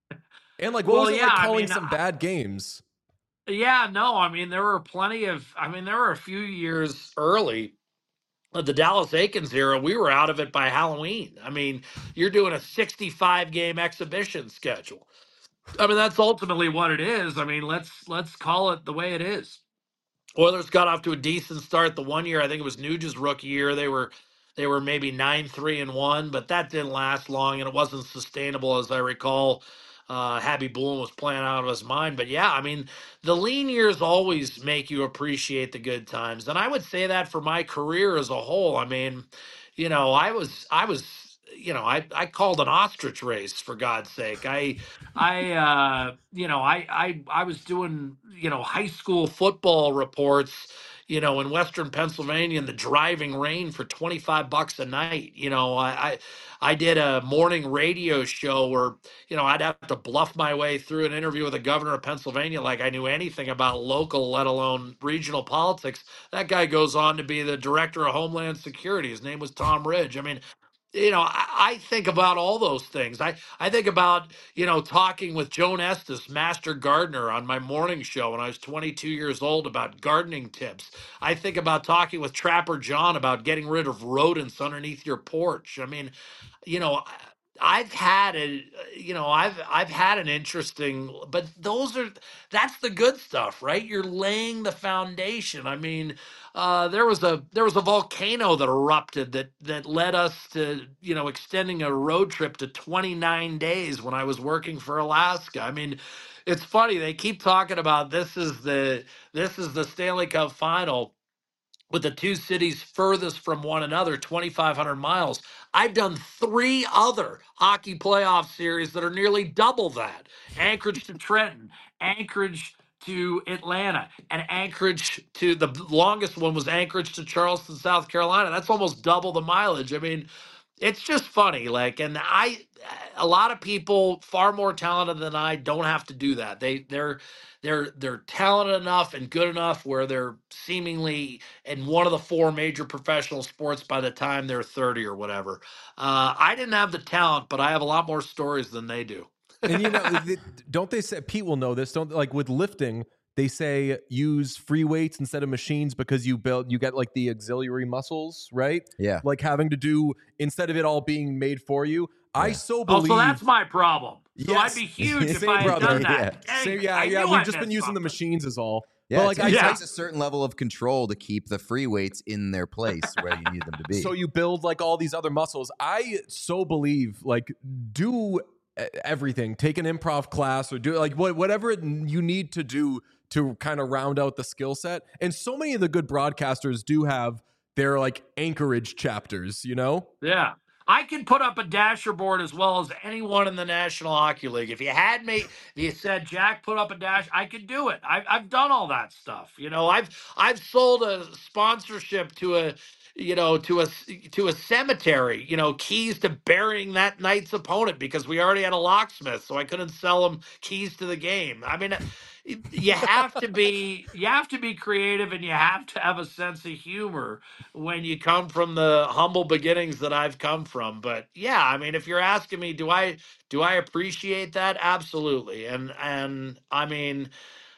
And like, what Well, was it yeah, like I calling mean, some I- bad games? Yeah, no, I mean, there were plenty of, I mean, there were a few years early of the Dallas Aikens era. We were out of it by Halloween. I mean, you're doing a sixty-five game exhibition schedule. I mean, that's ultimately what it is. I mean, let's let's call it the way it is. Oilers got off to a decent start the one year. I think it was Nuge's rookie year. They were they were maybe nine three and one, but that didn't last long, and it wasn't sustainable, as I recall. Uh, Habby Bullen was playing out of his mind. But yeah, I mean, the lean years always make you appreciate the good times, and I would say that for my career as a whole. I mean, you know, I was I was you know I I called an ostrich race, for God's sake. I I, uh, you know, I, I, I was doing, you know, high school football reports, you know, in Western Pennsylvania in the driving rain for twenty-five bucks a night. You know, I, I, I did a morning radio show where, you know, I'd have to bluff my way through an interview with the governor of Pennsylvania like I knew anything about local, let alone regional politics. That guy goes on to be the director of Homeland Security. His name was Tom Ridge. I mean, you know, I, I think about all those things. I, I think about, you know, talking with Joan Estes, master gardener, on my morning show when I was twenty-two years old about gardening tips. I think about talking with Trapper John about getting rid of rodents underneath your porch. I mean, you know, I- I've had a, you know, I've I've had an interesting, but those are that's the good stuff, right? You're laying the foundation. I mean, uh, there was a there was a volcano that erupted that that led us to, you know, extending a road trip to twenty-nine days when I was working for Alaska. I mean, it's funny, they keep talking about this is the this is the Stanley Cup final. with the two cities furthest from one another, twenty-five hundred miles. I've done three other hockey playoff series that are nearly double that. Anchorage to Trenton, Anchorage to Atlanta, and Anchorage to the longest one was Anchorage to Charleston, South Carolina. That's almost double the mileage. I mean, it's just funny. Like, and I, a lot of people far more talented than I don't have to do that. They, they're, they're, they're talented enough and good enough where they're seemingly in one of the four major professional sports by the time they're thirty or whatever. Uh, I didn't have the talent, but I have a lot more stories than they do. And you know, th- don't they say, Pete will know this, don't like with lifting, they say use free weights instead of machines because you build, you get like the auxiliary muscles, right? Yeah. Like having to do, instead of it all being made for you. I Yeah. so Oh, believe. so that's my problem. So Yes. I'd be huge if Same I had brother. done that. Yeah. Same, Dang, yeah, I yeah. knew We've I just been missed using the something. machines is all. Yeah, But like like it I, yeah. takes a certain level of control to keep the free weights in their place where you need them to be. so you build like all these other muscles. I so believe like do e- everything. Take an improv class or do like what whatever it- you need to do to kind of round out the skill set. And so many of the good broadcasters do have their like Anchorage chapters, you know? Yeah. I can put up a dasher board as well as anyone in the National Hockey League. If you had me, if you said, Jack, put up a dash, I could do it. I've, I've done all that stuff. You know, I've I've sold a sponsorship to a, you know, to a to a cemetery, you know, keys to burying that night's opponent because we already had a locksmith, so I couldn't sell him keys to the game. I mean, you have to be you have to be creative and you have to have a sense of humor when you come from the humble beginnings that I've come from. But yeah, I mean, if you're asking me, do I do I appreciate that? Absolutely. And and I mean,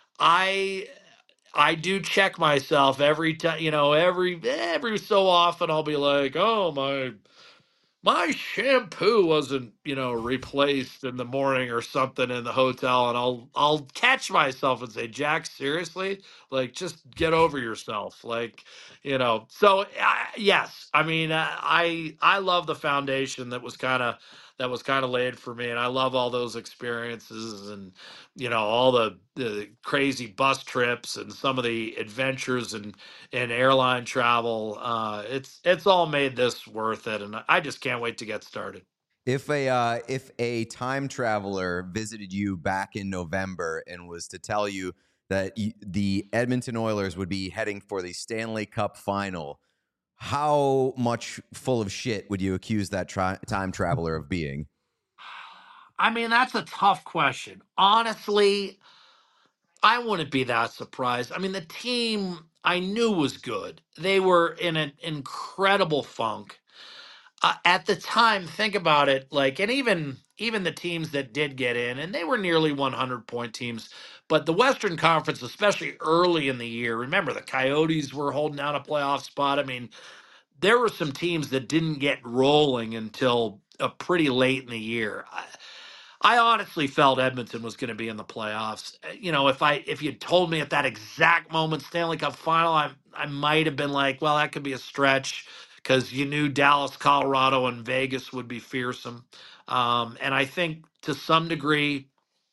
I I do check myself every time, you know, every every so often I'll be like, oh my my shampoo wasn't, you know, replaced in the morning or something in the hotel, and I'll I'll catch myself and say, Jack, seriously, like just get over yourself, like, you know. So uh, yes, I mean, uh, I I love the foundation that was kind of that was kind of laid for me, and I love all those experiences, and you know, all the the crazy bus trips and some of the adventures and and airline travel. Uh, it's it's all made this worth it, and I just can't wait to get started. If a uh, if a time traveler visited you back in November and was to tell you that y- the Edmonton Oilers would be heading for the Stanley Cup final, how much full of shit would you accuse that tri- time traveler of being? I mean, that's a tough question. Honestly, I wouldn't be that surprised. I mean, the team I knew was good. They were in an incredible funk. Uh, at the time, think about it, like, and even even the teams that did get in, and they were nearly one hundred point teams, but the Western Conference, especially early in the year, remember the Coyotes were holding down a playoff spot. I mean, there were some teams that didn't get rolling until uh, pretty late in the year. I, I honestly felt Edmonton was going to be in the playoffs. Uh, You know, if I if you told me at that exact moment Stanley Cup final, I I might have been like, well, that could be a stretch because you knew Dallas, Colorado, and Vegas would be fearsome. Um, and I think to some degree,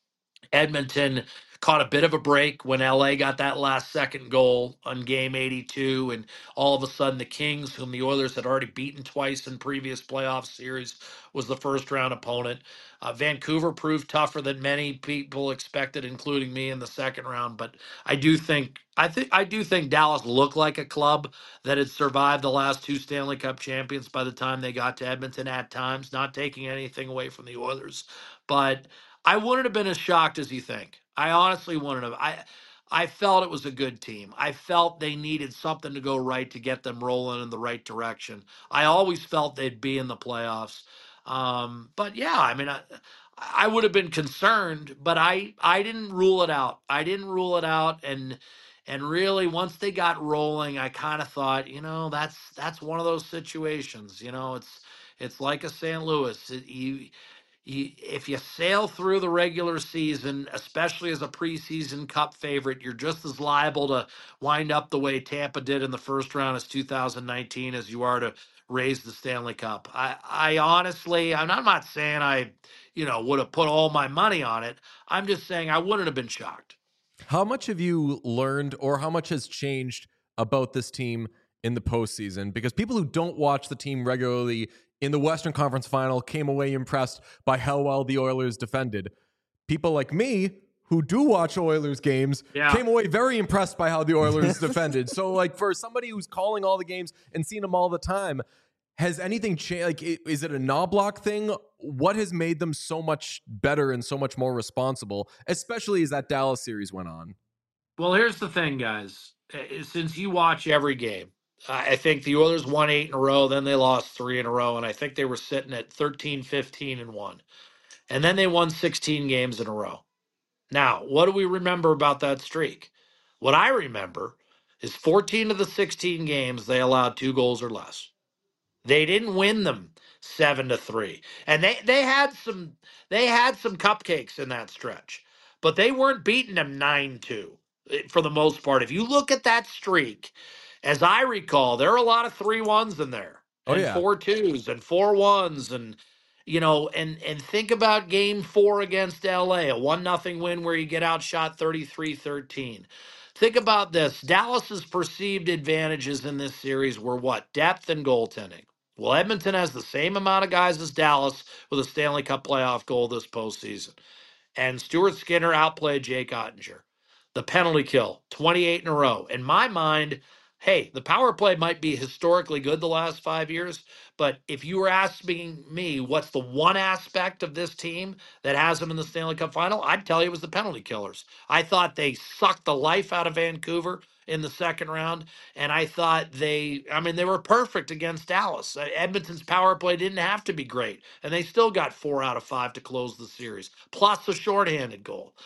Edmonton caught a bit of a break when L A got that last second goal on game eighty-two. And all of a sudden, the Kings, whom the Oilers had already beaten twice in previous playoff series, was the first round opponent. Uh, Vancouver proved tougher than many people expected, including me in the second round. But I do think. I think I do think Dallas looked like a club that had survived the last two Stanley Cup champions by the time they got to Edmonton at times, not taking anything away from the Oilers. But I wouldn't have been as shocked as you think. I honestly wouldn't have. I I felt it was a good team. I felt they needed something to go right to get them rolling in the right direction. I always felt they'd be in the playoffs. Um, but yeah, I mean, I, I would have been concerned, but I I didn't rule it out. I didn't rule it out, and and really once they got rolling, I kind of thought, you know, that's that's one of those situations. You know, it's it's like a Saint Louis. It, you you, if you sail through the regular season, especially as a preseason cup favorite, you're just as liable to wind up the way Tampa did in the first round as two thousand nineteen as you are to raise the Stanley Cup. I, I honestly, I'm not, I'm not saying I, you know, would have put all my money on it. I'm just saying I wouldn't have been shocked. How much have you learned or how much has changed about this team in the postseason, because people who don't watch the team regularly in the Western Conference Final came away impressed by how well the Oilers defended. People like me who do watch Oilers games Yeah. came away very impressed by how the Oilers defended. So, like, for somebody who's calling all the games and seeing them all the time, has anything changed? Like, i- is it a Knobloch thing? What has made them so much better and so much more responsible, especially as that Dallas series went on? Well, here's the thing, guys. Uh, Since you watch every game, I I think the Oilers won eight in a row, then they lost three in a row, and I think they were sitting at thirteen, fifteen, and one. And then they won sixteen games in a row. Now, what do we remember about that streak? What I remember is fourteen of the sixteen games they allowed two goals or less. They didn't win them seven to three. And they they had some they had some cupcakes in that stretch, but they weren't beating them nine two for the most part. If you look at that streak, as I recall, there are a lot of three ones in there, Oh, and yeah. four twos and four ones, and you know, and and think about game four against L A, a one nothing win where you get outshot thirty-three thirteen. Think about this. Dallas's perceived advantages in this series were what? Depth and goaltending. Well, Edmonton has the same amount of guys as Dallas with a Stanley Cup playoff goal this postseason. And Stuart Skinner outplayed Jake Ottinger. The penalty kill, twenty-eight in a row. In my mind, hey, the power play might be historically good the last five years, but if you were asking me what's the one aspect of this team that has them in the Stanley Cup final, I'd tell you it was the penalty killers. I thought they sucked the life out of Vancouver in the second round, and I thought they, I mean, they were perfect against Dallas. Uh, Edmonton's power play didn't have to be great, and they still got four out of five to close the series, plus a shorthanded goal.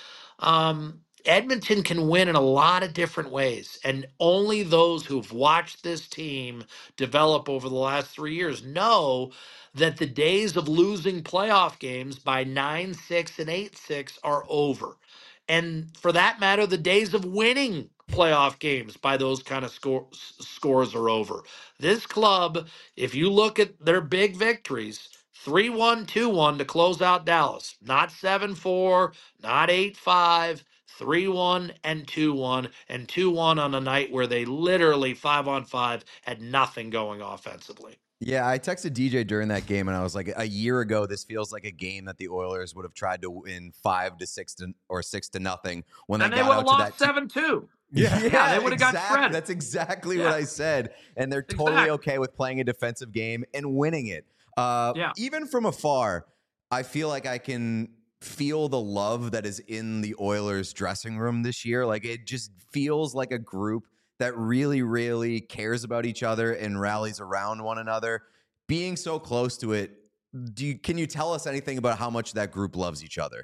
Um, Edmonton can win in a lot of different ways, and only those who've watched this team develop over the last three years know that the days of losing playoff games by nine six and eight six are over. And for that matter, the days of winning playoff games by those kind of score, scores are over. This club, if you look at their big victories, three one, two one to close out Dallas, not seven four, not eight five, three one and two one, and two one on a night where they literally five on five had nothing going offensively. Yeah, I texted D J during that game, and I was like, a year ago, this feels like a game that the Oilers would have tried to win five to six to or six to nothing when And they they got would out have to lost that. seven two. Yeah. Yeah, they would've got exactly. shredded. That's exactly Yeah. what I said, and they're totally Exactly. okay with playing a defensive game and winning it. Uh, Yeah. Even from afar, I feel like I can feel the love that is in the Oilers dressing room this year. Like, it just feels like a group that really, really cares about each other and rallies around one another. Being so close to it, do you, can you tell us anything about how much that group loves each other?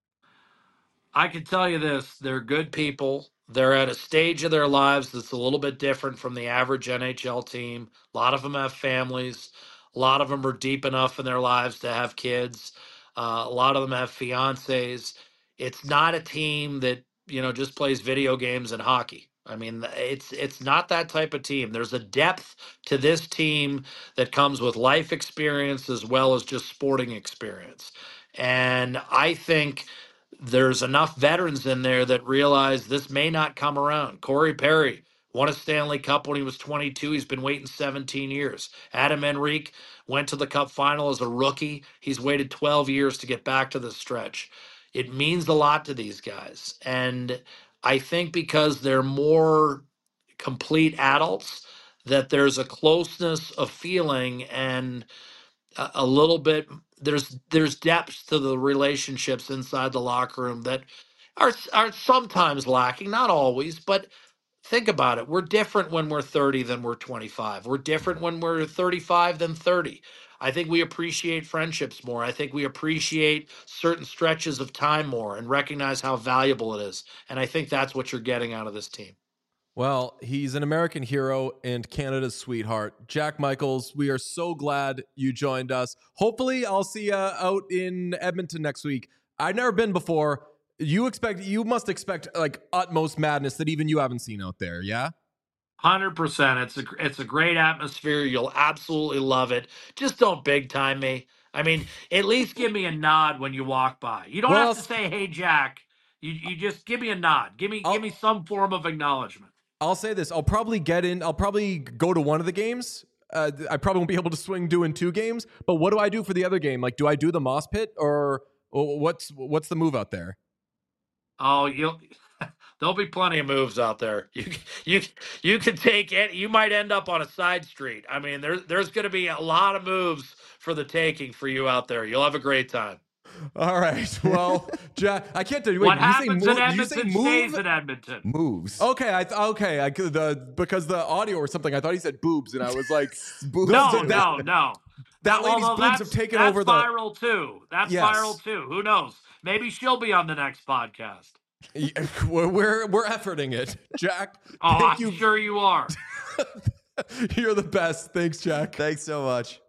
I can tell you this, they're good people. They're at a stage of their lives that's a little bit different from the average N H L team. A lot of them have families. A lot of them are deep enough in their lives to have kids. Uh, a lot of them have fiancés. It's not a team that, you know, just plays video games and hockey. I mean, it's it's not that type of team. There's a depth to this team that comes with life experience as well as just sporting experience. And I think there's enough veterans in there that realize this may not come around. Corey Perry won a Stanley Cup when he was twenty-two. He's been waiting seventeen years. Adam Henrique went to the Cup final as a rookie. He's waited twelve years to get back to the stretch. It means a lot to these guys. And I think because they're more complete adults, that there's a closeness of feeling and a, a little bit there's there's depths to the relationships inside the locker room that are are sometimes lacking, not always, but think about it. We're different when we're thirty than we're twenty-five. We're different when we're thirty-five than thirty. I think we appreciate friendships more. I think we appreciate certain stretches of time more and recognize how valuable it is. And I think that's what you're getting out of this team. Well, he's an American hero and Canada's sweetheart. Jack Michaels, we are so glad you joined us. Hopefully, I'll see you out in Edmonton next week. I've never been before. You expect, you must expect like utmost madness that even you haven't seen out there, yeah? one hundred percent. It's a it's a great atmosphere. You'll absolutely love it. Just don't big time me. I mean, at least give me a nod when you walk by. You don't Well, have to say, "Hey, Jack." You you just give me a nod. Give me I'll- give me some form of acknowledgement. I'll say this. I'll probably get in. I'll probably go to one of the games. Uh, I probably won't be able to swing doing two games. But what do I do for the other game? Like, do I do the Moss Pit or, or what's what's the move out there? Oh, you'll there'll be plenty of moves out there. You you you can take it. You might end up on a side street. I mean, there's there's going to be a lot of moves for the taking for you out there. You'll have a great time. All right. Well, Jack, I can't tell you. Wait, what did you say happens move? in Did you say Edmonton move? stays in Edmonton. Moves. Okay, I th- okay, I could- the because the audio or something. I thought he said boobs, and I was like, Boobs. No, Those are- no, no. that lady's Although boobs that's- have taken that's over the. viral too. That's Yes. viral too. Who knows? Maybe she'll be on the next podcast. We're we're, we're efforting it, Jack. Oh, thank I'm you. sure you are. You're the best. Thanks, Jack. Thanks so much.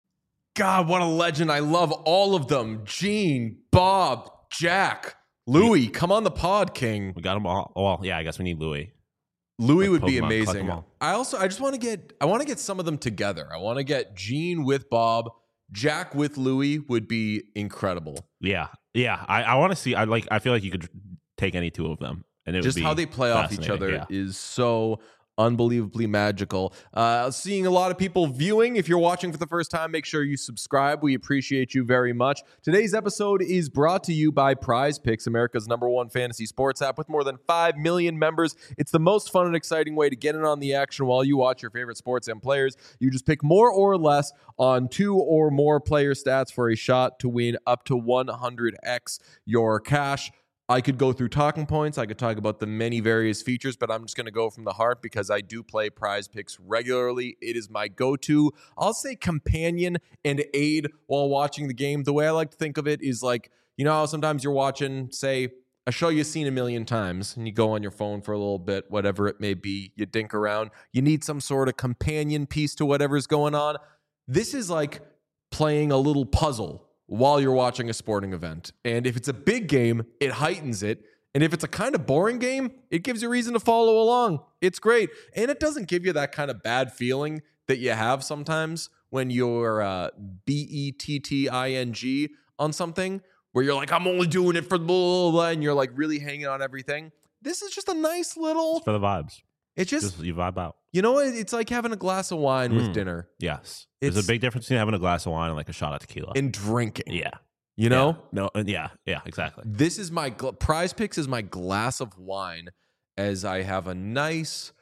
God, what a legend. I love all of them. Gene, Bob, Jack, Louis. Come on the pod, King. We got them all. Well, yeah, I guess we need Louis. Louis Like would be Pokemon, collect amazing. them all. I also I just want to get I want to get some of them together. I want to get Gene with Bob, Jack with Louis would be incredible. Yeah, yeah. I, I want to see. I like. I feel like you could take any two of them, and it Just would be how they play off each fascinating, other yeah. is so unbelievably magical. Uh, seeing a lot of people viewing. If you're watching for the first time, make sure you subscribe. We appreciate you very much. Today's episode is brought to you by Prize Picks, America's number one fantasy sports app with more than five million members. It's the most fun and exciting way to get in on the action while you watch your favorite sports and players. You just pick more or less on two or more player stats for a shot to win up to one hundred x your cash. I could go through talking points. I could talk about the many various features, but I'm just going to go from the heart because I do play Prize Picks regularly. It is my go-to, I'll say, companion and aid while watching the game. The way I like to think of it is like, you know how sometimes you're watching, say, a show you've seen a million times, and you go on your phone for a little bit, whatever it may be, you dink around. You need some sort of companion piece to whatever's going on. This is like playing a little puzzle while you're watching a sporting event. And if it's a big game, it heightens it. And if it's a kind of boring game, it gives you reason to follow along. It's great. And it doesn't give you that kind of bad feeling that you have sometimes when you're uh, B E T T I N G on something, where you're like, I'm only doing it for blah, blah, blah, and you're like really hanging on everything. This is just a nice little, It's for the vibes. it's just, Just you vibe out. you know, it- it's like having a glass of wine with Mm. dinner Yes, there's It's- a big difference between having a glass of wine and like a shot of tequila. and drinking. yeah, You know? Yeah. no, and yeah, yeah, exactly. This is my gl- Prize Picks is my glass of wine as I have a nice,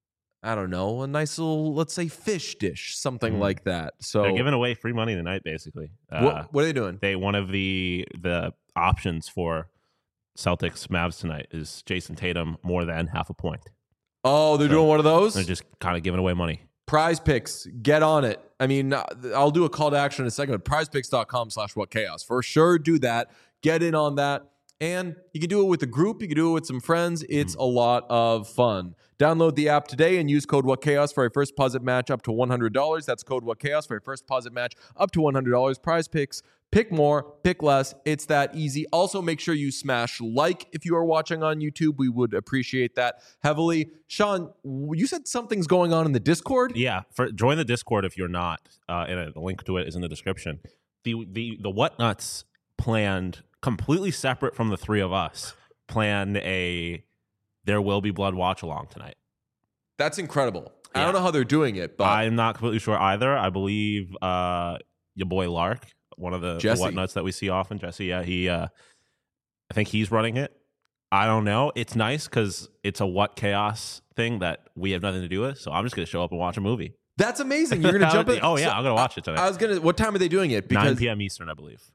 I don't know, a nice little, let's say, fish dish, something Mm. like that. So They're giving away free money tonight, basically. Uh, what, what are they doing? they one of the the options for Celtics Mavs tonight is Jason Tatum more than half a point. Oh, they're So, doing one of those? They're just kind of giving away money. Prize Picks, get on it. I mean, uh, I'll do a call to action in a second, but prizepicks.com slash what chaos. For sure, do that. Get in on that. And you can do it with a group. You can do it with some friends. It's a lot of fun. Download the app today and use code WhatChaos for a first deposit match up to one hundred dollars. That's code WhatChaos for a first deposit match up to one hundred dollars. Prize Picks. Pick more, pick less. It's that easy. Also, make sure you smash like if you are watching on YouTube. We would appreciate that heavily. Sean, you said something's going on in the Discord? Yeah, for join the Discord if you're not. Uh, and a link to it is in the description. The the the Whatnuts planned completely separate from the three of us. Planned a There Will Be Blood watch along tonight. That's incredible. I Yeah. don't know how they're doing it, but I'm not completely sure either. I believe uh, your boy Lark, one of the, the Jesse. Whatnuts that we see often, Jesse. Yeah, he. Uh, I think he's running it. I don't know. It's nice because it's a What Chaos thing that we have nothing to do with. So I'm just going to show up and watch a movie. that's amazing. You're gonna jump in. Oh yeah, So, I'm going to watch it tonight. I was gonna. What time are they doing it? nine Because p.m. Eastern, I believe.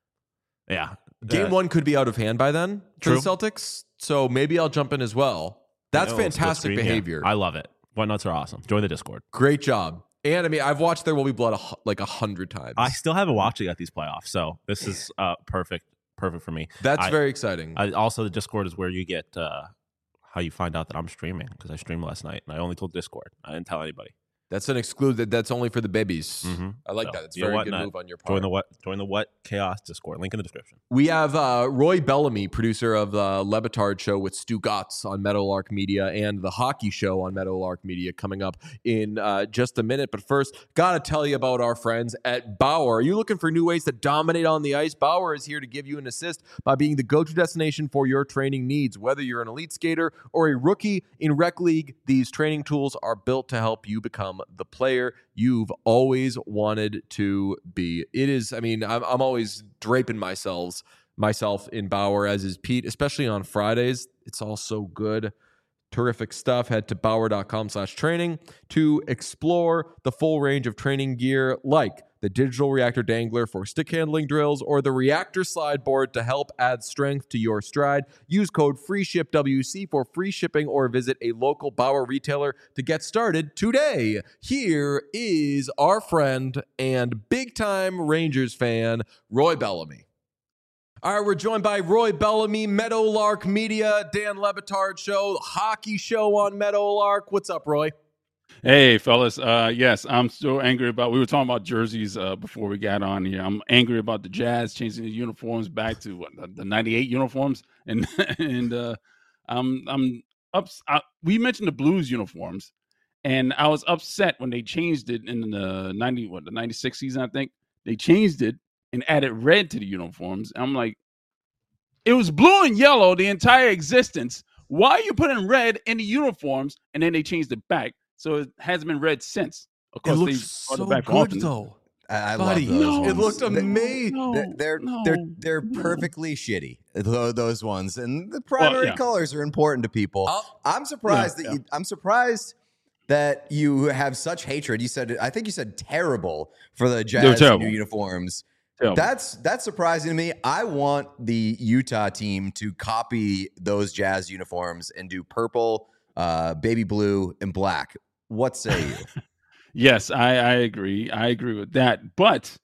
Yeah. game Uh, one could be out of hand by then for True. the Celtics. So maybe I'll jump in as well. That's you know, split fantastic screen, yeah. behavior. I love it. Whatnuts are awesome. Join the Discord. Great job. And I mean, I've watched There Will Be Blood a, hu- like a hundred times. I still haven't watched it at these playoffs, so this is uh, perfect, perfect for me. That's I- very exciting. I, also, the Discord is where you get uh, how you find out that I'm streaming because I streamed last night and I only told Discord. I didn't tell anybody. That's an exclude. That's only for the babies. Mm-hmm. I like So, that. It's a you know very what? good Not- move on your part. Join the what? Join the what? Chaos Discord. Link in the description. We have uh, Roy Bellamy, producer of the Levitard Show with Stu Gotts on Meadowlark Media and the Hockey Show on Meadowlark Media coming up in uh, just a minute. But first, gotta tell you about our friends at Bauer. Are you looking for new ways to dominate on the ice? Bauer is here to give you an assist by being the go-to destination for your training needs. Whether you're an elite skater or a rookie in Rec League, these training tools are built to help you become the player you've always wanted to be. It is, I mean, I'm, I'm always draping myself, myself in Bauer, as is Pete, especially on Fridays. It's all so good. Terrific stuff. Head to bauer.com slash training to explore the full range of training gear like the digital reactor dangler for stick handling drills or the reactor slide board to help add strength to your stride. Use code FREESHIPWC for free shipping or visit a local Bauer retailer to get started today. Here is our friend and big-time Rangers fan, Roy Bellamy. All right, we're joined by Roy Bellamy, Meadowlark Media, Dan Levitard Show, Hockey Show on Meadowlark. What's up, Roy? Hey, fellas. Uh, yes, I'm still angry about, we were talking about jerseys uh, before we got on here. I'm angry about the Jazz changing the uniforms back to what, the, the ninety-eight uniforms. And and uh, I'm, I'm up, I, we mentioned the Blues uniforms, and I was upset when they changed it in the ninety, what, the ninety-six season, I think. They changed it and added red to the uniforms. I'm like, it was blue and yellow the entire existence. Why are you putting red in the uniforms? And then they changed it back. So it hasn't been red since. Of course, It they looks brought so it back good, often. though. I, I Buddy, love those. no, it ones. looked They- amazing. No, They're they're no, they're, they're no. perfectly shitty. tho- Those ones, and the primary yeah. colors are important to people. I'll- I'm surprised Yeah, that you, I'm surprised that you have such hatred. You said I think you said terrible for the Jazz terrible. new uniforms. Terrible. That's that's surprising to me. I want the Utah team to copy those Jazz uniforms and do purple, uh, baby blue, and black. What say you? Yes, I, I agree. I agree with that. But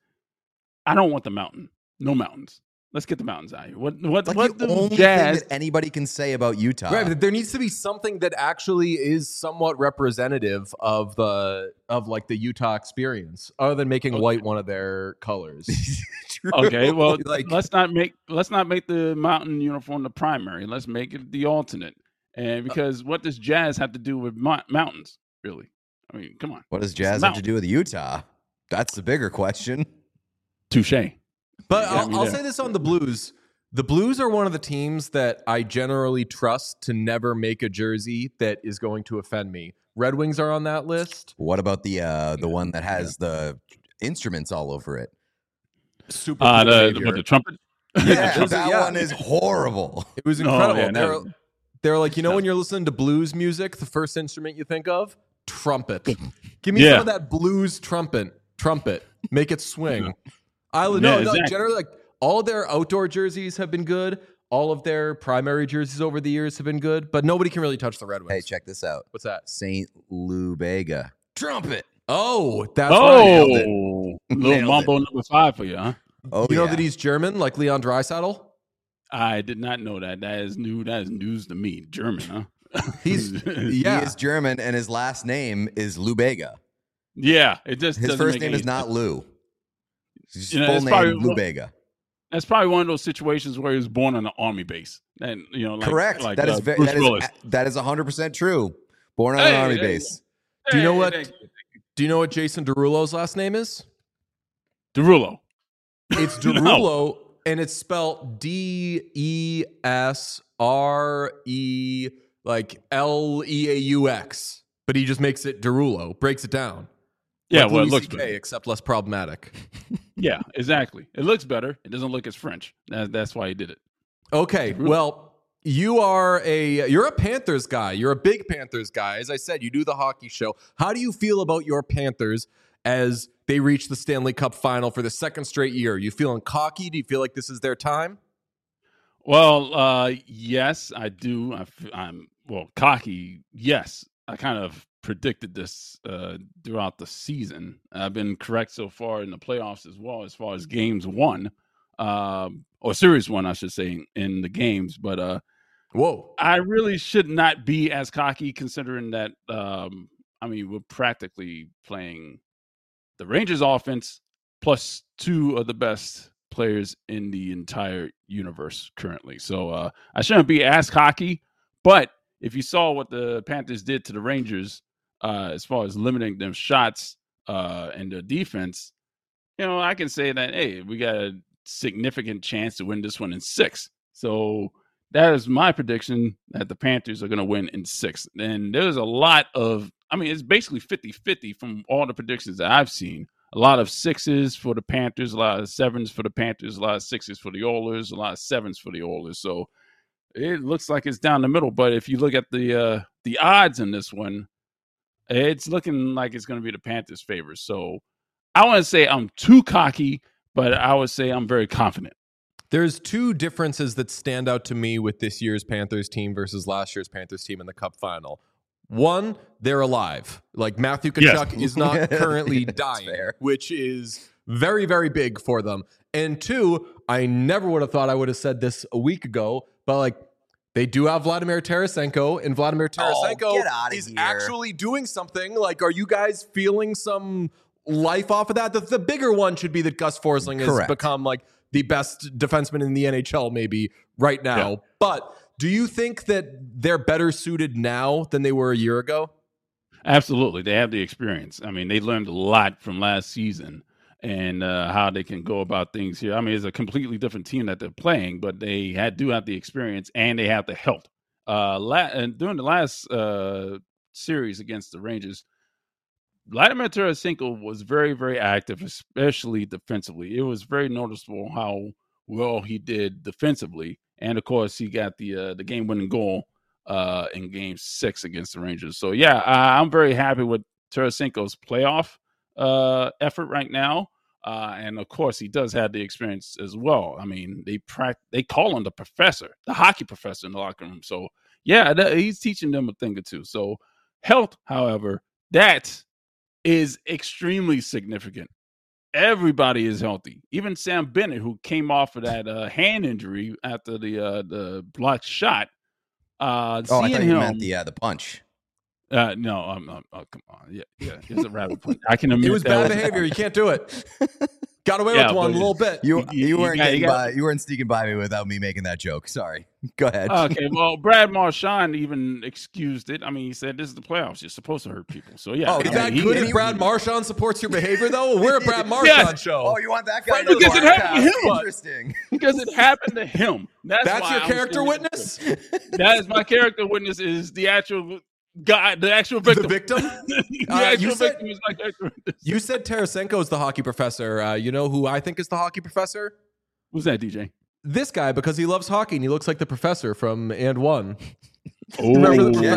I don't want the mountain. No mountains. Let's get the mountains out here. What what Like what the, the only Jazz? thing that anybody can say about Utah. Right, but there needs to be something that actually is somewhat representative of the of like the Utah experience, other than making Okay. white one of their colors. True. Okay, well, like let's not make let's not make the mountain uniform the primary. Let's make it the alternate. And because what does Jazz have to do with mo- mountains? Really? I mean, come on. what does It's Jazz the have to mountain. do with Utah? That's the bigger question. Touche. But You got I'll, me I'll there. say this on the Blues. The Blues are one of the teams that I generally trust to never make a jersey that is going to offend me. Red Wings are on that list. What about the uh, the one that has the instruments all over it? Super Uh, cool the, behavior. what, the trumpet. Yeah, those are- that yeah. one is horrible. It was No, incredible. yeah, they're, no. they're like, you know, No. when you're listening to blues music, the first instrument you think of? Trumpet. Give me Yeah. some of that blues trumpet. Trumpet. Make it swing. I no, Yeah, no, exactly. generally like all of their outdoor jerseys have been good. All of their primary jerseys over the years have been good, but nobody can really touch the Red Wings. Hey, check this out. What's that? Saint Lou Bega. Trumpet. Oh, that's Oh, right. Nailed it. little Nailed mambo number five for you, huh? Oh, You know yeah. that he's German, like Leon Draisaitl? I did not know that. That is new. That is news to me. German, huh? He's He yeah. is German, and his last name is Lou Bega. yeah. It just His doesn't first make name any is not sense. Lou. His You know, full it's name probably- Lou Bega. That's probably one of those situations where he was born on an army base, and you know, like, Correct. Like, that is uh, ve- Bruce that is Willis. that is one hundred percent true. Born on Hey, an army hey, base. Do you know Hey, what- thank you. Do you know what Jason Derulo's last name is? Derulo. It's No. Derulo, and it's spelled D E S R E like L E A U X, but he just makes it Derulo, breaks it down. Yeah, Like well, it Louis looks C K, better. except less problematic. Yeah, exactly. It looks better. It doesn't look as French. That, that's why he did it. Okay, well, you are a you're a Panthers guy. You're a big Panthers guy. As I said, you do the hockey show. How do you feel about your Panthers as they reach the Stanley Cup final for the second straight year? You feeling cocky? Do you feel like this is their time? Well, uh, yes, I do. I f- I'm well cocky. Yes, I kind of predicted this uh, throughout the season. I've been correct so far in the playoffs as well, as far as games won, um, or series one, I should say, in, in the games. But uh, Whoa. I really should not be as cocky, considering that um, I mean, we're practically playing the Rangers offense plus two of the best players in the entire universe currently. So uh, I shouldn't be as cocky, but if you saw what the Panthers did to the Rangers uh, as far as limiting them shots uh, and their defense, you know, I can say that, hey, we got a significant chance to win this one in six. So that is my prediction that the Panthers are going to win in six. And there's a lot of, I mean, it's basically fifty-fifty from all the predictions that I've seen. A lot of sixes for the Panthers, a lot of sevens for the Panthers, a lot of sixes for the Oilers, a lot of sevens for the Oilers. So it looks like it's down the middle. But if you look at the uh, the odds in this one, it's looking like it's going to be the Panthers' favor. So I want to say I'm too cocky, but I would say I'm very confident. There's two differences that stand out to me with this year's Panthers team versus last year's Panthers team in the Cup final. One, they're alive. Like Matthew Tkachuk Yes. is not currently dying, fair. which is very, very big for them. And two, I never would have thought I would have said this a week ago, but like they do have Vladimir Tarasenko, and Vladimir Tarasenko Oh, get outta is here. actually doing something. Like, are you guys feeling some life off of that? The, the bigger one should be that Gus Forsling has Correct. become like the best defenseman in the N H L maybe right now. Yeah. But do you think that they're better suited now than they were a year ago? Absolutely. They have the experience. I mean, they learned a lot from last season and uh, how they can go about things here. I mean, it's a completely different team that they're playing, but they had, do have the experience and they have the help. Uh, la- and during the last uh, series against the Rangers, Vladimir Tarasenko was very, very active, especially defensively. It was very noticeable how well he did defensively. And, of course, he got the uh, the game-winning goal uh, in Game six against the Rangers. So, yeah, I, I'm very happy with Tarasenko's playoff uh, effort right now. Uh, and, of course, he does have the experience as well. I mean, they pra- they call him the professor, the hockey professor in the locker room. So, yeah, th- he's teaching them a thing or two. So, health, however, that is extremely significant. Everybody is healthy. Even Sam Bennett, who came off of that uh, hand injury after the uh, the blocked shot. Uh, Oh, I seeing thought you him, meant the uh, the punch. uh, no, um, um, oh, come on, yeah, yeah, it's a rabbit punch. I can admit It was that bad was- behavior. You can't do it. Got away Yeah, with one a but- little bit. You You- you, you weren't got- you getting got- by. You weren't sneaking by me without me making that joke. Sorry. Go ahead. Okay, well, Brad Marchand even excused it. I mean, he said this is the playoffs. You're supposed to hurt people. So yeah, Oh, I Is mean, that he- good he- if Brad Marchand supports your behavior, though? We're a Brad Yeah. Marchand show. Oh, you want that guy? Friend of to the Because it podcast. happened to him. Interesting. because it happened to him. That's, That's why your I was character saying witness? it. That is my character witness. Is the actual guy, the actual victim. The victim? the Uh, actual you said- victim is my character witness. You said Tarasenko is the hockey professor. Uh, you know who I think is the hockey professor? Who's that, D J? This guy, because he loves hockey and he looks like the professor from And One. Oh, Remember the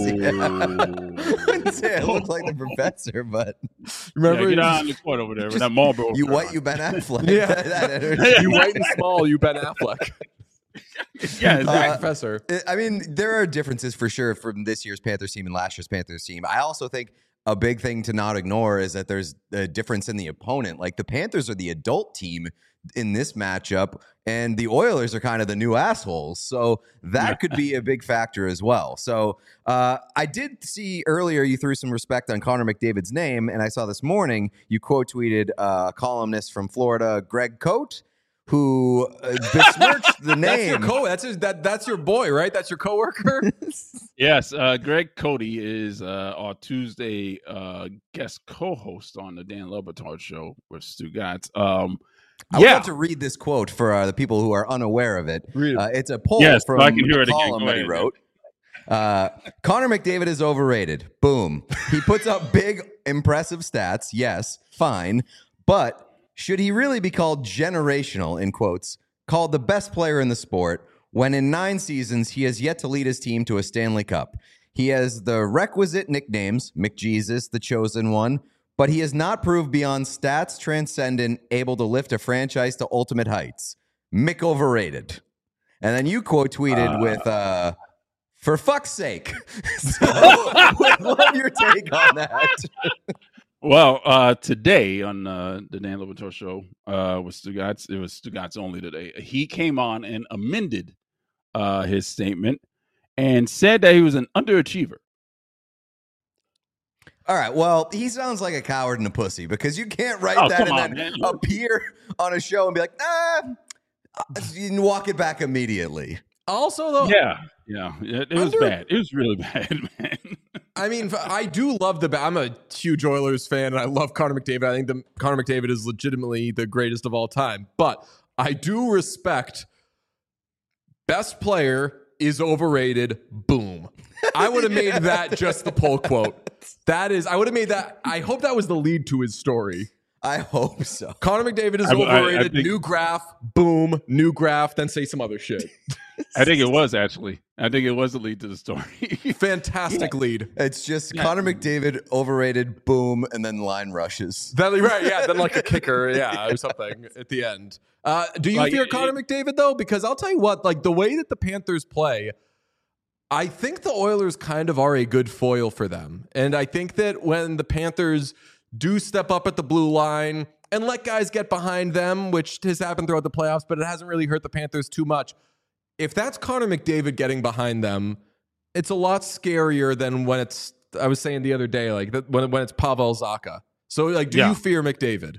professor? I wouldn't say I look like the professor, but Remember? Yeah, get out on the court over there with that Marlboro. you shirt white, on. you Ben Affleck. Yeah. That- that energy. you white and small, you Ben Affleck. Yeah, Uh, exactly. professor. I mean, there are differences for sure from this year's Panthers team and last year's Panthers team. I also think a big thing to not ignore is that there's a difference in the opponent. Like the Panthers are the adult team in this matchup, and the Oilers are kind of the new assholes. So that could be a big factor as well. So uh, I did see earlier you threw some respect on Connor McDavid's name, and I saw this morning you quote tweeted a columnist from Florida, Greg Cote, who uh, besmirched the That's your name. co. That's his, that. That's your boy, right? That's your coworker. Yes, uh, Greg Cody is uh, our Tuesday uh, guest co-host on the Dan Le Batard show with Stu Gatz. Um, I would yeah, like to read this quote for uh, the people who are unaware of it. Read it. Uh, it's a poll Yes, so from I can hear a it again. column Go that he ahead. wrote. Uh, Connor McDavid is overrated. Boom. He puts up big, impressive stats. Yes, fine. But should he really be called generational, in quotes, called the best player in the sport, when in nine seasons he has yet to lead his team to a Stanley Cup? He has the requisite nicknames, McJesus, the chosen one, but he has not proved beyond stats transcendent, able to lift a franchise to ultimate heights. Mick overrated. And then you quote tweeted Uh, with, uh, for fuck's sake. So, would love your take on that. well, uh, today on uh, the Dan Le Batard show uh, with Stu Gatz, it was Stu Gatz only today. He came on and amended uh, his statement and said that he was an underachiever. All right. Well, he sounds like a coward and a pussy because you can't write Oh, that come and on, then man. appear on a show and be like, nah, you can walk it back immediately. Also, though, Yeah, yeah, it, it was Under- bad. It was really bad, man. I mean, I do love the. I'm a huge Oilers fan, and I love Connor McDavid. I think the Connor McDavid is legitimately the greatest of all time. But I do respect best player is overrated. Boom. I would have made that just the pull quote. That is, I would have made that. I hope that was the lead to his story. I hope so. Connor McDavid is I- I- I overrated. think- New graph. Boom. New graph. Then say some other shit. I think it was actually. I think it was the lead to the story. Fantastic lead. It's just Yeah. Connor McDavid, overrated, boom, and then line rushes. That, right, yeah, then like a kicker, yeah, or something at the end. Uh, do you Like, fear it- Connor McDavid though? Because I'll tell you what, like the way that the Panthers play, I think the Oilers kind of are a good foil for them. And I think that when the Panthers do step up at the blue line and let guys get behind them, which has happened throughout the playoffs, but it hasn't really hurt the Panthers too much. If that's Connor McDavid getting behind them, it's a lot scarier than when it's, I was saying the other day, like that when, when it's Pavel Zacha. So like, do Yeah. you fear McDavid?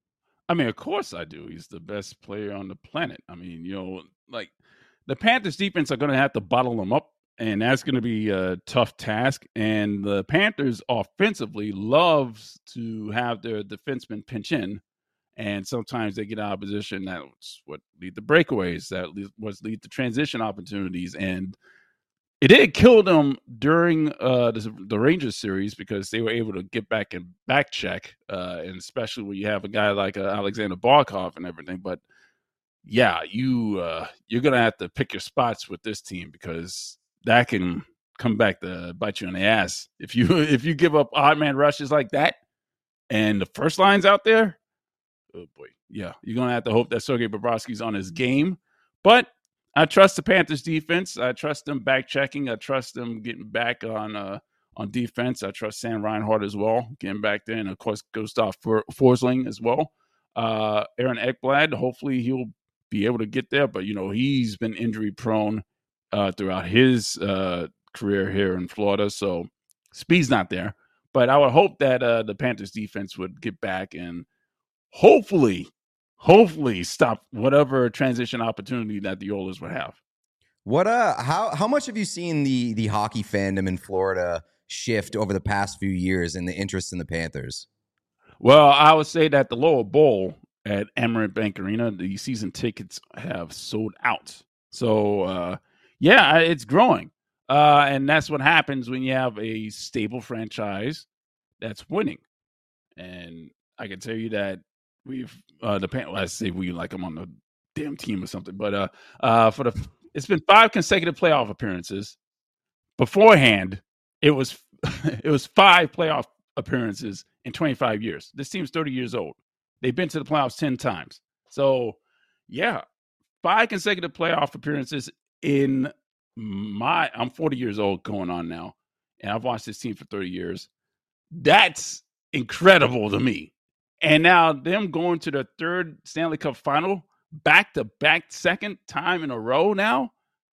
I mean, of course I do. He's the best player on the planet. I mean, you know, like the Panthers defense are going to have to bottle them up, and that's going to be a tough task. And the Panthers offensively loves to have their defensemen pinch in, and sometimes they get out of position. That's what lead to breakaways. That lead, was lead to transition opportunities, and it did kill them during uh, the, the Rangers series because they were able to get back and back check, uh, and especially when you have a guy like uh, Alexander Barkov and everything. But yeah, you uh, you're gonna have to pick your spots with this team because that can come back to bite you in the ass if you if you give up odd man rushes like that, and the first line's out there. Oh boy, yeah, you're gonna have to hope that Sergei Bobrovsky's on his game, but I trust the Panthers defense. I trust them back checking. I trust them getting back on uh, on defense. I trust Sam Reinhart as well, getting back there. And, of course, Gustav Forsling as well. Uh, Aaron Ekblad, hopefully he'll be able to get there. But, you know, he's been injury prone uh, throughout his uh, career here in Florida. So speed's not there. But I would hope that uh, the Panthers defense would get back and hopefully – hopefully stop whatever transition opportunity that the Oilers would have. What uh how how much have you seen the the hockey fandom in Florida shift over the past few years in the interest in the Panthers? Well, I would say that the lower bowl at Amerant Bank Arena, the season tickets have sold out. So uh yeah, it's growing. Uh and that's what happens when you have a stable franchise that's winning. And I can tell you that We've uh the pan- well, I say we like I'm on the damn team or something, but uh uh for the it's been five consecutive playoff appearances. Beforehand, it was it was five playoff appearances in twenty-five years. This team's thirty years old. They've been to the playoffs ten times. So yeah, five consecutive playoff appearances in my I'm forty years old going on now, and I've watched this team for thirty years. That's incredible to me. And now them going to the third Stanley Cup final, back-to-back second time in a row now.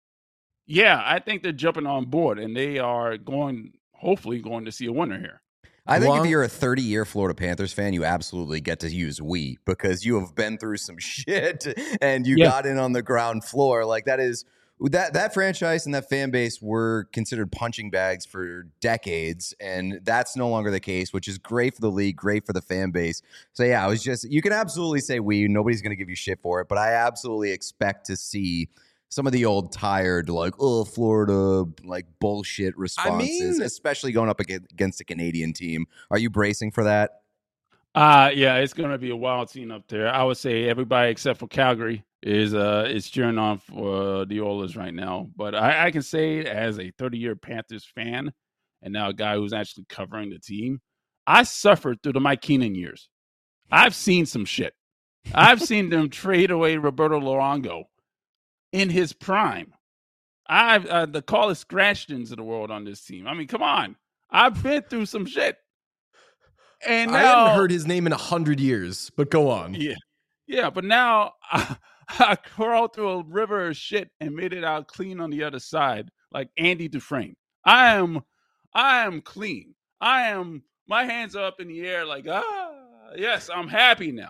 Yeah, I think they're jumping on board, and they are going, hopefully going to see a winner here. I think Long- if you're a thirty-year Florida Panthers fan, you absolutely get to use we because you have been through some shit and you Yeah. got in on the ground floor. Like that is that that franchise and that fan base were considered punching bags for decades, and that's no longer the case, which is great for the league, great for the fan base. So yeah, I was just you can absolutely say we. Nobody's going to give you shit for it, but I absolutely expect to see some of the old tired, like, oh, Florida, like bullshit responses, mean- especially going up aga- against a Canadian team. Are you bracing for that? Uh, yeah, it's going to be a wild scene up there. I would say everybody except for Calgary is uh is cheering on for uh, the Oilers right now. But I, I can say as a thirty-year Panthers fan and now a guy who's actually covering the team, I suffered through the Mike Keenan years. I've seen some shit. I've seen them trade away Roberto Luongo in his prime. I've uh, the Carlos Scratchtons of the world on this team. I mean, come on. I've been through some shit. And I now, hadn't heard his name in a hundred years, but go on. Yeah, yeah, but now I, I crawled through a river of shit and made it out clean on the other side, like Andy Dufresne. I am, I am clean. I am my hands are up in the air like, ah, yes, I'm happy now.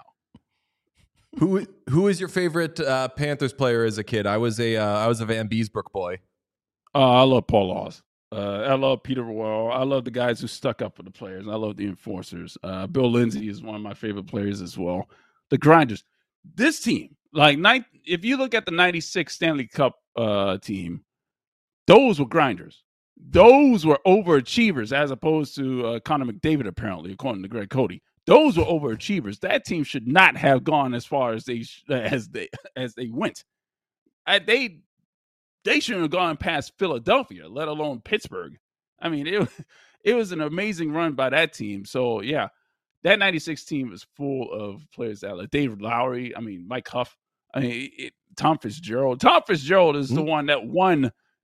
Who who is your favorite uh, Panthers player as a kid? I was a uh, I was a Van Beesbrook boy. Uh, I love Paul Laws. Uh, I love Peter Royal. I love the guys who stuck up for the players. I love the enforcers. Uh, Bill Lindsay is one of my favorite players as well. The grinders. This team, like, nine, if you look at the ninety-six Stanley Cup uh, team, those were grinders. Those were overachievers as opposed to uh, Connor McDavid, apparently, according to Greg Cody. Those were overachievers. That team should not have gone as far as they as they as they went. I, they they shouldn't have gone past Philadelphia, let alone Pittsburgh. I mean, it it was an amazing run by that team. So yeah, that ninety-six team was full of players that like David Lowry. I mean, Mike Huff. I mean, it, Tom Fitzgerald. Tom Fitzgerald is mm-hmm. the one that won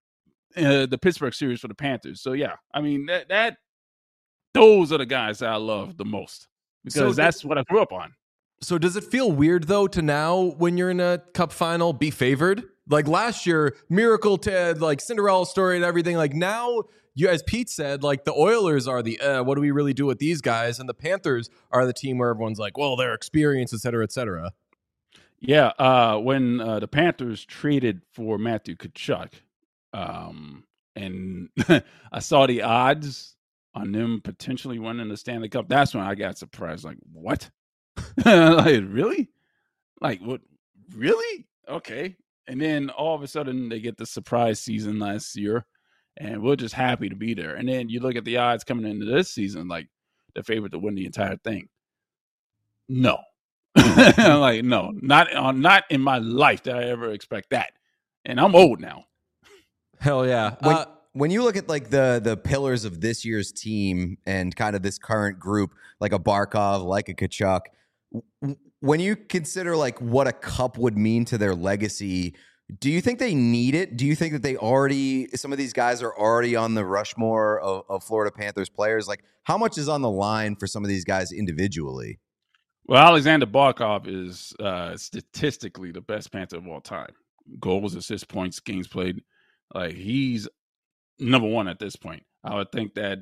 uh, the Pittsburgh series for the Panthers. So yeah, I mean that that those are the guys that I love the most. Because so that's th- what I grew up on. So does it feel weird, though, to now, when you're in a cup final, be favored? Like last year, miracle Ted, like Cinderella story and everything. Like now, you, as Pete said, like the Oilers are the, uh, what do we really do with these guys? And the Panthers are the team where everyone's like, well, their experience, et cetera, et cetera. Yeah, uh, when uh, the Panthers traded for Matthew Tkachuk, um, and I saw the odds on them potentially winning the Stanley Cup, that's when I got surprised. Like, what? Like, really? Like, what? Really? Okay. And then all of a sudden they get the surprise season last year, and we're just happy to be there. And then you look at the odds coming into this season, like the favorite to win the entire thing. No. Like, no, not uh, not in my life did I ever expect that. And I'm old now. Hell yeah. When, uh, when you look at like the the pillars of this year's team and kind of this current group, like a Barkov, like a Tkachuk, w- when you consider like what a cup would mean to their legacy, do you think they need it? Do you think that they already, some of these guys are already on the Rushmore of, of Florida Panthers players? Like, how much is on the line for some of these guys individually? Well, Alexander Barkov is uh, statistically the best Panther of all time. Goals, assists, points, games played. Like, he's number one at this point. I would think that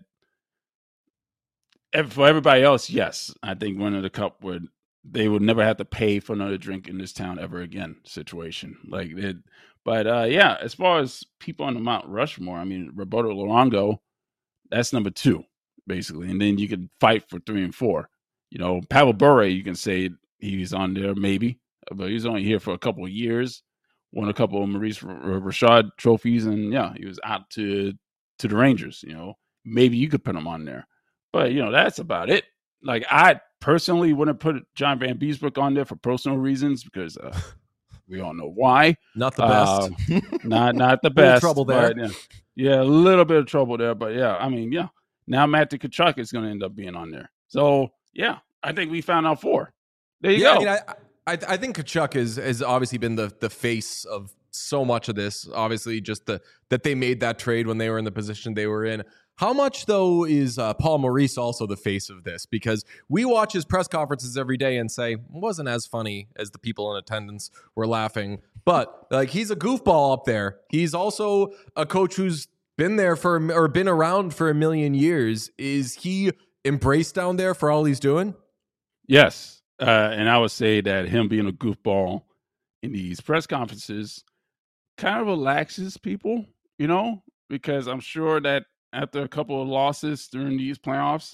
for everybody else, yes, I think winning the cup would, they would never have to pay for another drink in this town ever again situation. Like it, but uh, yeah, as far as people on the Mount Rushmore, I mean, Roberto Luongo, that's number two, basically. And then you could fight for three and four. You know, Pavel Bure, you can say he's on there maybe, but he's only here for a couple of years. Won a couple of Maurice Richard trophies, and yeah, he was out to to the Rangers. You know, maybe you could put him on there, but you know, that's about it. Like, I personally wouldn't put John Van Beesbrook on there for personal reasons because uh, we all know why. Not the best. Uh, not not the best. Trouble there. But, yeah, yeah, a little bit of trouble there, but yeah, I mean, yeah. Now Matthew Tkachuk is going to end up being on there. So yeah, I think we found out four. There you yeah, go. I mean, I, I I think Tkachuk is has obviously been the the face of so much of this. Obviously, just the that they made that trade when they were in the position they were in. How much, though, is uh, Paul Maurice also the face of this? Because we watch his press conferences every day and say, it wasn't as funny as the people in attendance were laughing. But, like, he's a goofball up there. He's also a coach who's been there for, or been around for a million years. Is he embraced down there for all he's doing? Yes. Uh, and I would say that him being a goofball in these press conferences kind of relaxes people, you know, because I'm sure that after a couple of losses during these playoffs,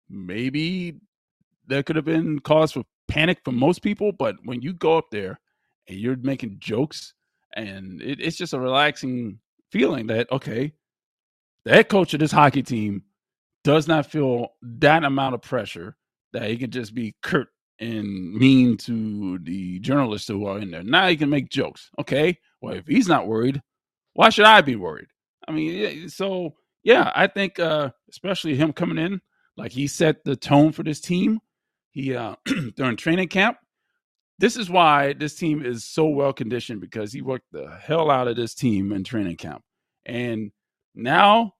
maybe there could have been cause for panic for most people. But when you go up there and you're making jokes, and it, it's just a relaxing feeling that, okay, the head coach of this hockey team does not feel that amount of pressure that he can just be curt and mean to the journalists who are in there. Now he can make jokes. Okay, well, if he's not worried, why should I be worried? I mean, so... Yeah, I think uh, especially him coming in, like he set the tone for this team. He uh, during training camp. This is why this team is so well conditioned, because he worked the hell out of this team in training camp. And now,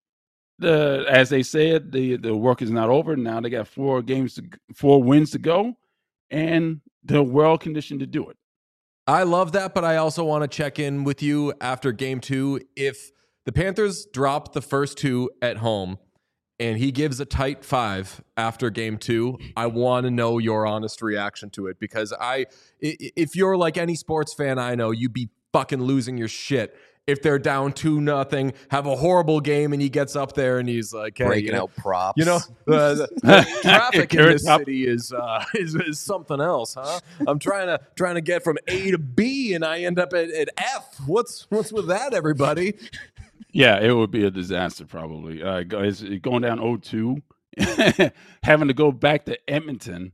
the as they said, the the work is not over. Now they got four games, to, four wins to go, and they're well conditioned to do it. I love that, but I also want to check in with you after game two. If the Panthers drop the first two at home and he gives a tight five after game two, I want to know your honest reaction to it, because I, if you're like any sports fan I know, you'd be fucking losing your shit if they're down two nothing, have a horrible game, and he gets up there and he's like, hey, breaking you know, out props. You know, the, the, the traffic in this up. city is, uh, is is something else, huh? I'm trying to trying to get from A to B, and I end up at, at F. What's what's with that, everybody? Yeah, it would be a disaster probably. Uh, go- it's going down oh two, having to go back to Edmonton.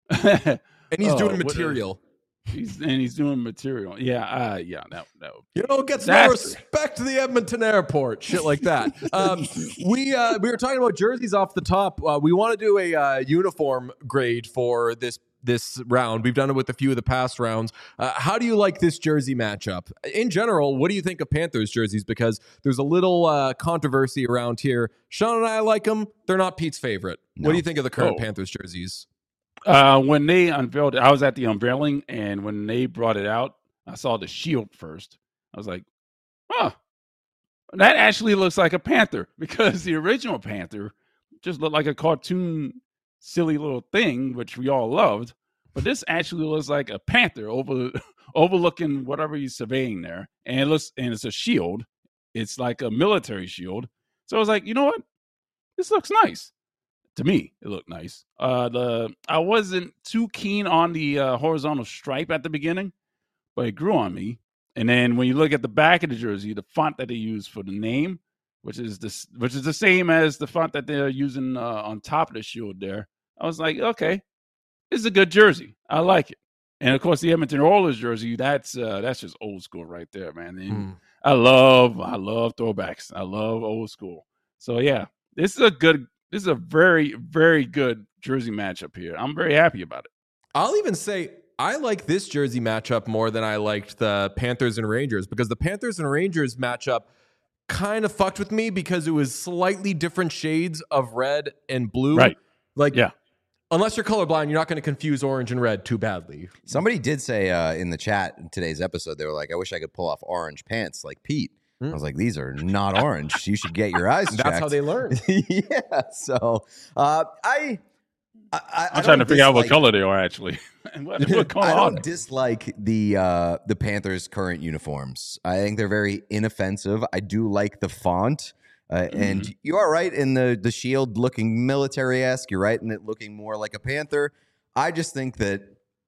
And he's Oh, doing what a- material. He's and he's doing material. Yeah, uh, yeah, that that would You know, gets Disaster. no respect to the Edmonton airport, shit like that. Um, we uh, we were talking about jerseys off the top. Uh, we want to do a uh, uniform grade for this this round. We've done it with a few of the past rounds. Uh, how do you like this jersey matchup in general? What do you think of Panthers jerseys? Because there's a little uh, controversy around here. Sean and I like them. They're not Pete's favorite. What No. do you think of the current Oh. Panthers jerseys? Uh, when they unveiled it, I was at the unveiling, and when they brought it out, I saw the shield first. I was like, huh, that actually looks like a panther, because the original panther just looked like a cartoon, silly little thing, which we all loved. But this actually looks like a panther over overlooking whatever he's surveying there, and it looks and it's a shield. It's like a military shield. So I was like, you know what, this looks nice. To me, it looked nice. Uh, the I wasn't too keen on the uh, horizontal stripe at the beginning, but it grew on me. And then when you look at the back of the jersey, the font that they use for the name, which is this, which is the same as the font that they're using uh, on top of the shield there, I was like, okay, this is a good jersey. I like it. And of course, the Edmonton Oilers jersey, that's uh, that's just old school right there, man. And Hmm. I love, I love throwbacks. I love old school. So yeah, this is a good. This is a very, very good jersey matchup here. I'm very happy about it. I'll even say I like this jersey matchup more than I liked the Panthers and Rangers, because the Panthers and Rangers matchup kind of fucked with me because it was slightly different shades of red and blue. Right. Like, Yeah. unless you're colorblind, you're not going to confuse orange and red too badly. Somebody did say uh, in the chat in today's episode, they were like, I wish I could pull off orange pants like Pete. Hmm. I was like, these are not orange. You should get your eyes checked. That's how they learn. Yeah. So uh, I, I, I I'm trying to don't figure out what dislike- color they are actually. And what, what color I are don't they? dislike the uh, the Panthers' current uniforms. I think they're very inoffensive. I do like the font, uh, and Mm-hmm. you are right in the the shield looking military esque. You're right in it looking more like a panther. I just think that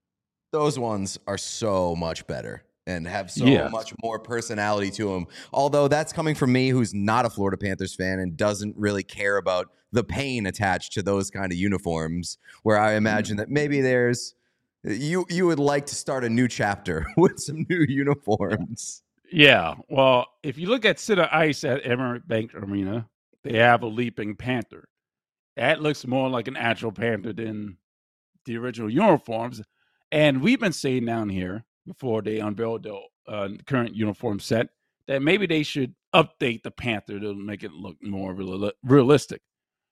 those ones are so much better and have so Yes. much more personality to them. Although that's coming from me, who's not a Florida Panthers fan and doesn't really care about the pain attached to those kind of uniforms, where I imagine that maybe there's you you would like to start a new chapter with some new uniforms. Yeah. Well, if you look at Center Ice at Emirates Bank Arena, they have a leaping panther. That looks more like an actual panther than the original uniforms. And we've been saying down here before they unveiled the uh, current uniform set that maybe they should update the panther to make it look more real- realistic.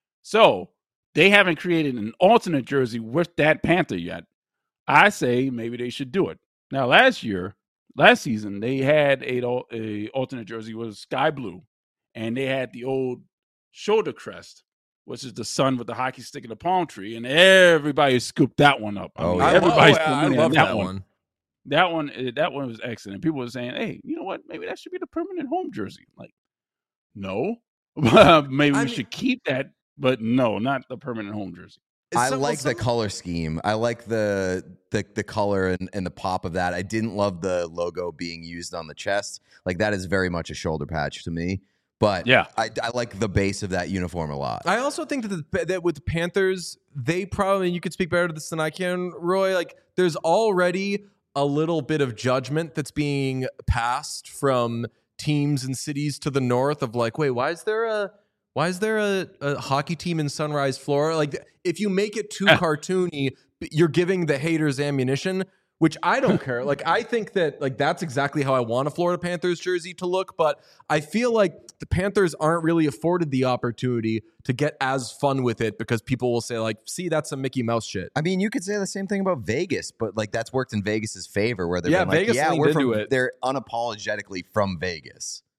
So they haven't created an alternate jersey with that panther yet. I say maybe they should do it. Now, last year, last season, they had a, a alternate jersey was sky blue, and they had the old shoulder crest, which is the sun with the hockey stick and the palm tree, and everybody scooped that one up. I Oh, mean, yeah. I, everybody's oh, put I money on love that, that one. one. That one, eh, that one was excellent. People were saying, "Hey, you know what? Maybe that should be the permanent home jersey." Like, no, maybe I we mean- should keep that, but no, not the permanent home jersey. I Some- like some- the color scheme. I like the the the color and, and the pop of that. I didn't love the logo being used on the chest. Like that is very much a shoulder patch to me. But Yeah. I, I like the base of that uniform a lot. I also think that the, that with the Panthers, they probably, you could speak better to this than I can, Roy. Like, there's already a little bit of judgment that's being passed from teams and cities to the north of like, wait, why is there a why is there a, a hockey team in Sunrise, Florida? Like, if you make it too cartoony, you're giving the haters ammunition, which I don't care. Like, I think that like that's exactly how I want a Florida Panthers jersey to look, but I feel like the Panthers aren't really afforded the opportunity to get as fun with it because people will say like, see, that's some Mickey Mouse shit. I mean, you could say the same thing about Vegas, but like that's worked in Vegas's favor, where they're Yeah, like, Vegas yeah, leaned we're into from. it. They're unapologetically from Vegas.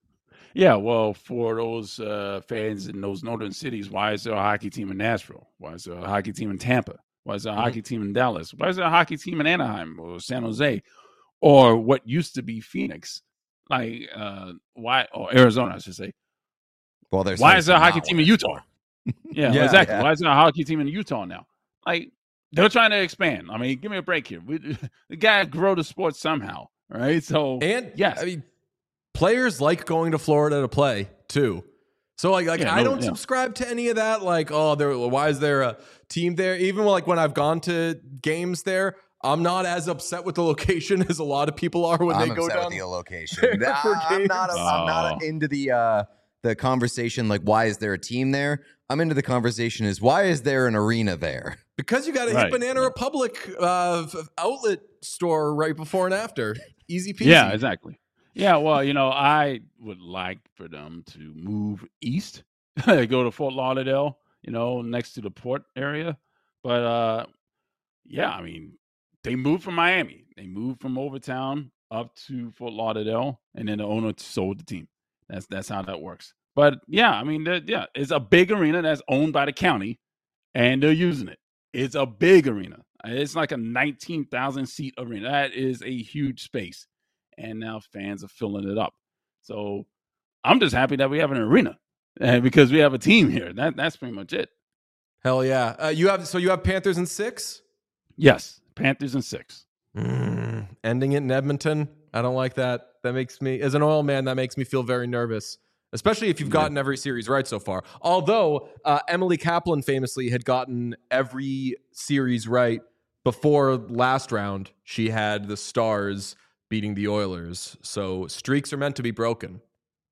Yeah, well, for those uh, fans in those northern cities, why is there a hockey team in Nashville? Why is there a hockey team in Tampa? Why is there a Mhm. hockey team in Dallas? Why is there a hockey team in Anaheim or San Jose or what used to be Phoenix? Like, uh, why, or Arizona, I should say. Well, there's Why no is there a hockey not team in winning Utah? for. Yeah, Yeah, exactly. yeah. Why is there a hockey team in Utah now? Like, they're trying to expand. I mean, give me a break here. We, the guy grow the sport somehow, right? So, And yes. I mean, players like going to Florida to play too. So like, like Yeah, I no, don't yeah. subscribe to any of that. Like, oh, there. Why is there a team there? Even like when I've gone to games there, I'm not as upset with the location as a lot of people are when I'm they go upset down. with the location. there Nah, for I'm not. games. I'm not Oh. into the uh, the conversation. Like, why is there a team there? I'm into the conversation. Is why is there an arena there? Because you got to Right, hit Banana yeah. Republic uh, f- outlet store right before and after. Easy peasy. Yeah, exactly. Yeah, well, you know, I would like for them to move east, go to Fort Lauderdale, you know, next to the port area. But uh yeah, I mean, they moved from Miami. They moved from Overtown up to Fort Lauderdale, and then the owner sold the team. That's that's how that works. But yeah, I mean, the- yeah, it's a big arena that's owned by the county, and they're using it. It's a big arena. It's like a nineteen thousand seat arena. That is a huge space, and now fans are filling it up. So I'm just happy that we have an arena, and because we have a team here. That that's pretty much it. Hell yeah. Uh, you have so you have Panthers in six. Yes, Panthers in six. Mm, ending it in Edmonton. I don't like that. That makes me, as an oil man, that makes me feel very nervous, especially if you've gotten every series right so far. Although uh, Emily Kaplan famously had gotten every series right before last round. She had the Stars beating the Oilers. So streaks are meant to be broken.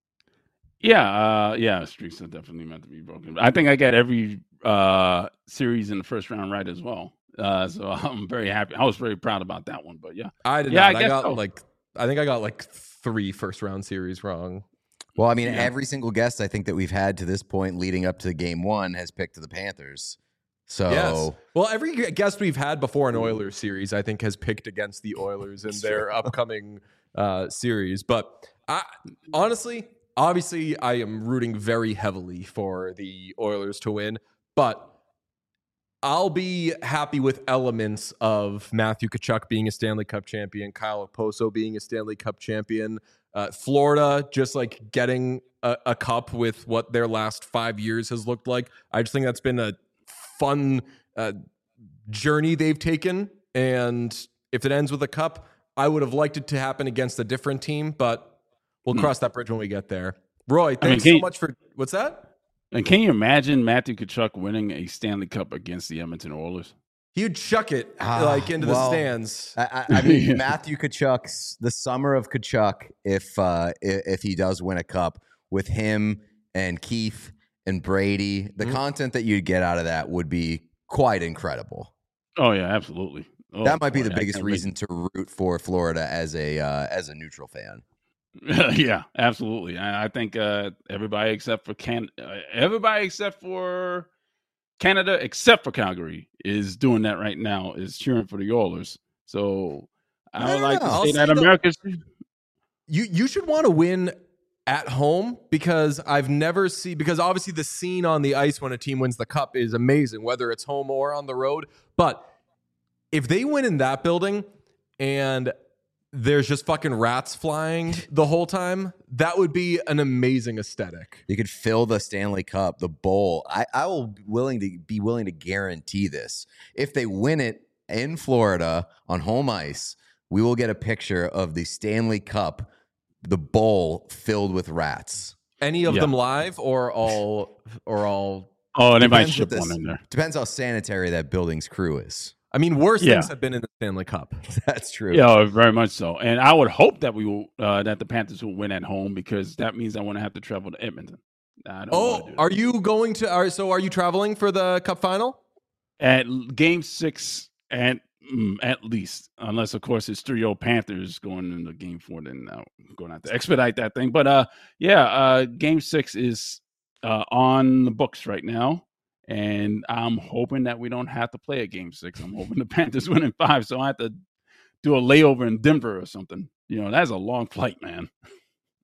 Yeah, uh, yeah, streaks are definitely meant to be broken. I think I got every uh, series in the first round right as well. Uh, so I'm very happy. I was very proud about that one. But yeah, I did Yeah, not. I I, guess got so. like, I think I got like three first round series wrong. Well, I mean, Yeah. every single guest I think that we've had to this point leading up to game one has picked the Panthers. So Yes. Well, every guest we've had before an Oilers series, I think, has picked against the Oilers in their upcoming uh, series. But I, honestly, obviously, I am rooting very heavily for the Oilers to win. But I'll be happy with elements of Matthew Tkachuk being a Stanley Cup champion, Kyle Okposo being a Stanley Cup champion, uh, Florida just like getting a, a cup with what their last five years has looked like. I just think that's been a fun uh, journey they've taken. And if it ends with a cup, I would have liked it to happen against a different team, but we'll Hmm. cross that bridge when we get there. Roy, mean, thanks can so you- much for what's that? and can you imagine Matthew Tkachuk winning a Stanley Cup against the Edmonton Oilers? He'd chuck it Ah, like into well, the stands. I, I I mean, Yeah. Matthew Kachuk's the summer of Kachuk. If uh, if, if he does win a cup with him and Keith and Brady, the Mhm. content that you'd get out of that would be quite incredible. Oh yeah, absolutely. Oh, that might be boy, the I biggest can't wait. reason to root for Florida as a uh, as a neutral fan. Yeah, absolutely. I, I think uh, everybody except for Can, uh, everybody except for Canada, except for Calgary, is doing that right now. Is cheering for the Oilers. So I I would don't like know. to I'll say say that though- America's. You you should want to win at home because I've never seen because obviously the scene on the ice when a team wins the cup is amazing, whether it's home or on the road. But if they win in that building and there's just fucking rats flying the whole time, that would be an amazing aesthetic. You could fill the Stanley Cup, the bowl. I, I will be willing to be willing to guarantee this. If they win it in Florida on home ice, we will get a picture of the Stanley Cup, the bowl filled with rats. Any of Yeah. them live or all or all Oh, they might Depends ship what one this- in there. Depends how sanitary that building's crew is. I mean, worse Yeah. things have been in the Stanley Cup. That's true. Yeah, very much so. And I would hope that we will uh, that the Panthers will win at home because that means I want to have to travel to Edmonton. I don't wanna Oh, do that. are you going to are so are you traveling for the cup final? At l- game six at mm, at least, unless of course it's three old Panthers going into game four, then uh, I'm going to have to expedite that thing. But uh, yeah, uh, game six is uh, on the books right now, and I'm hoping that we don't have to play a game six. I'm hoping the Panthers win in five, so I have to do a layover in Denver or something. You know, that's a long flight, man.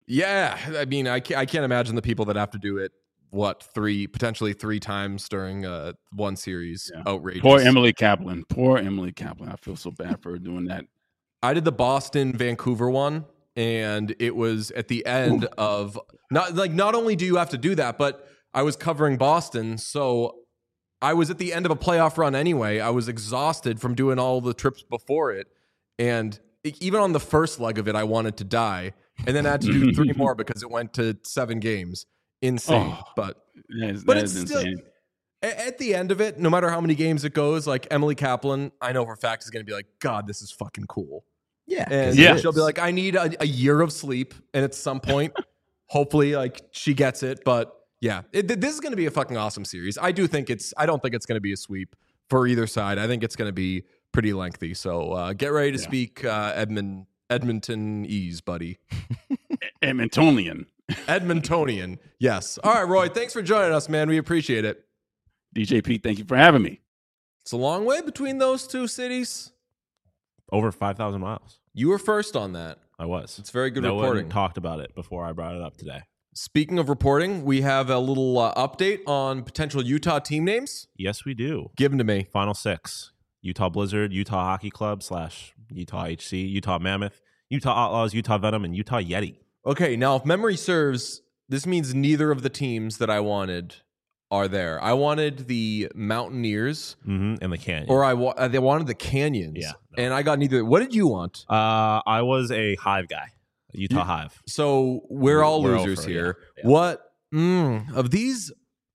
Yeah, I mean, I can't, I can't imagine the people that have to do it. What three potentially three times during uh, one series? Yeah. Outrageous. Poor Emily Kaplan. Poor Emily Kaplan. I feel so bad for her doing that. I did the Boston Vancouver one, and it was at the end Ooh. of not like not only do you have to do that, but I was covering Boston, so I was at the end of a playoff run anyway. I was exhausted from doing all the trips before it, and even on the first leg of it, I wanted to die, and then I had to do three more because it went to seven games. Insane, Oh, but That is, but that it's is still insane. a- at the end of it, no matter how many games it goes, like Emily Kaplan, I know for a fact is going to be like, God, this is fucking cool. Yeah. And Yeah. she'll be like, I need a, a year of sleep. And at some point, hopefully, like she gets it. But yeah, it, this is going to be a fucking awesome series. I do think it's, I don't think it's going to be a sweep for either side. I think it's going to be pretty lengthy. So uh, get ready to Yeah. speak uh, Edmund, Edmontonese, buddy. Edmontonian. Edmontonian. Yes. All right, Roy, thanks for joining us, man. We appreciate it. D J P, thank you for having me. It's a long way between those two cities. Over five thousand miles. You were first on that. I was. It's very good no reporting. one talked about it before I brought it up today. Speaking of reporting, we have a little uh, update on potential Utah team names. Yes, we do. Give them to me. Final six: Utah Blizzard, Utah Hockey Club slash Utah H C, Utah Mammoth, Utah Outlaws, Utah Venom, and Utah Yeti. Okay, now if memory serves, this means neither of the teams that I wanted are there. I wanted the Mountaineers, Mm-hmm. And the Canyon. or I wa- uh, they wanted the Canyons. Yeah, no. And I got neither. What did you want? uh, I was a Hive guy, Utah You- Hive. So we're all We're losers over, here. yeah, yeah. What mm, of these?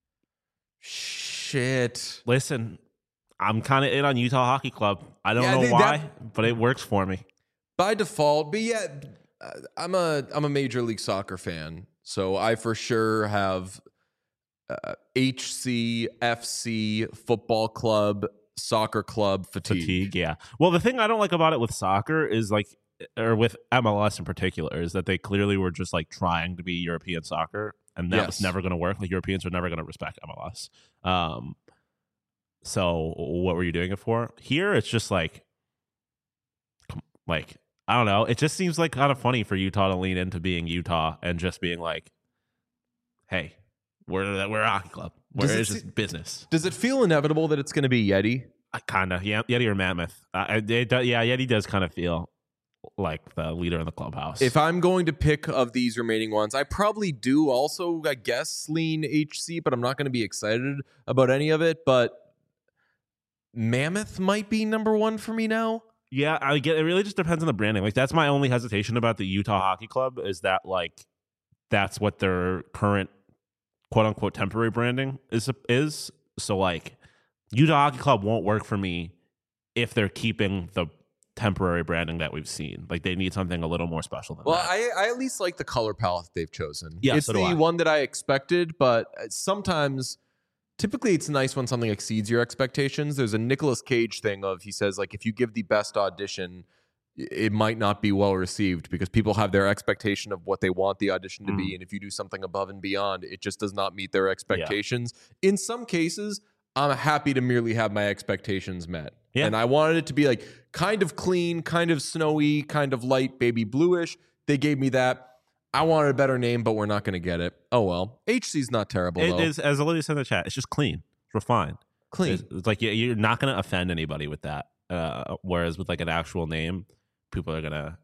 Shit. Listen, I'm kind of in on Utah Hockey Club. I don't Yeah, know they- why, that- but it works for me. By default, but yeah, uh, I'm a I'm a Major League Soccer fan, so I for sure have uh, H C, F C, football club, soccer club fatigue. Fatigue, yeah. Well, the thing I don't like about it with soccer is like, or with M L S in particular, is that they clearly were just like trying to be European soccer, and that Yes. was never going to work. Like Europeans are never going to respect M L S. Um, so what were you doing it for? Here, it's just like, com- like I don't know. It just seems like kind of funny for Utah to lean into being Utah and just being like, "Hey, we're we're a hockey club. We're Does it it's se- just business." Does it feel inevitable that it's going to be Yeti? Kind of, yeah, Yeti or Mammoth. Uh, it, do- yeah, Yeti does kind of feel like the leader in the clubhouse. If I'm going to pick of these remaining ones, I probably do also, I guess, lean H C, but I'm not going to be excited about any of it. But Mammoth might be number one for me now. yeah, I get it. Really just depends on the branding. Like that's my only hesitation about the Utah Hockey Club is that like that's what their current quote unquote temporary branding is is. So like Utah Hockey Club won't work for me if they're keeping the temporary branding that we've seen. Like they need something a little more special than Well, that. I, I at least like the color palette they've chosen. Yeah, it's so do the I. one that I expected, but sometimes, typically, it's nice when something exceeds your expectations. There's a Nicolas Cage thing of he says like if you give the best audition, i- it might not be well received because people have their expectation of what they want the audition to Mm. be, and if you do something above and beyond, it just does not meet their expectations. In some cases, I'm happy to merely have my expectations met. Yeah. And I wanted it to be like kind of clean, kind of snowy, kind of light baby bluish. They gave me that. I wanted a better name, but we're not going to get it. Oh well. H C's not terrible It though. is, as Olivia said in the chat, it's just clean. It's refined. Clean. It's, it's like you- you're not going to offend anybody with that. Uh, whereas with like an actual name, people are gonna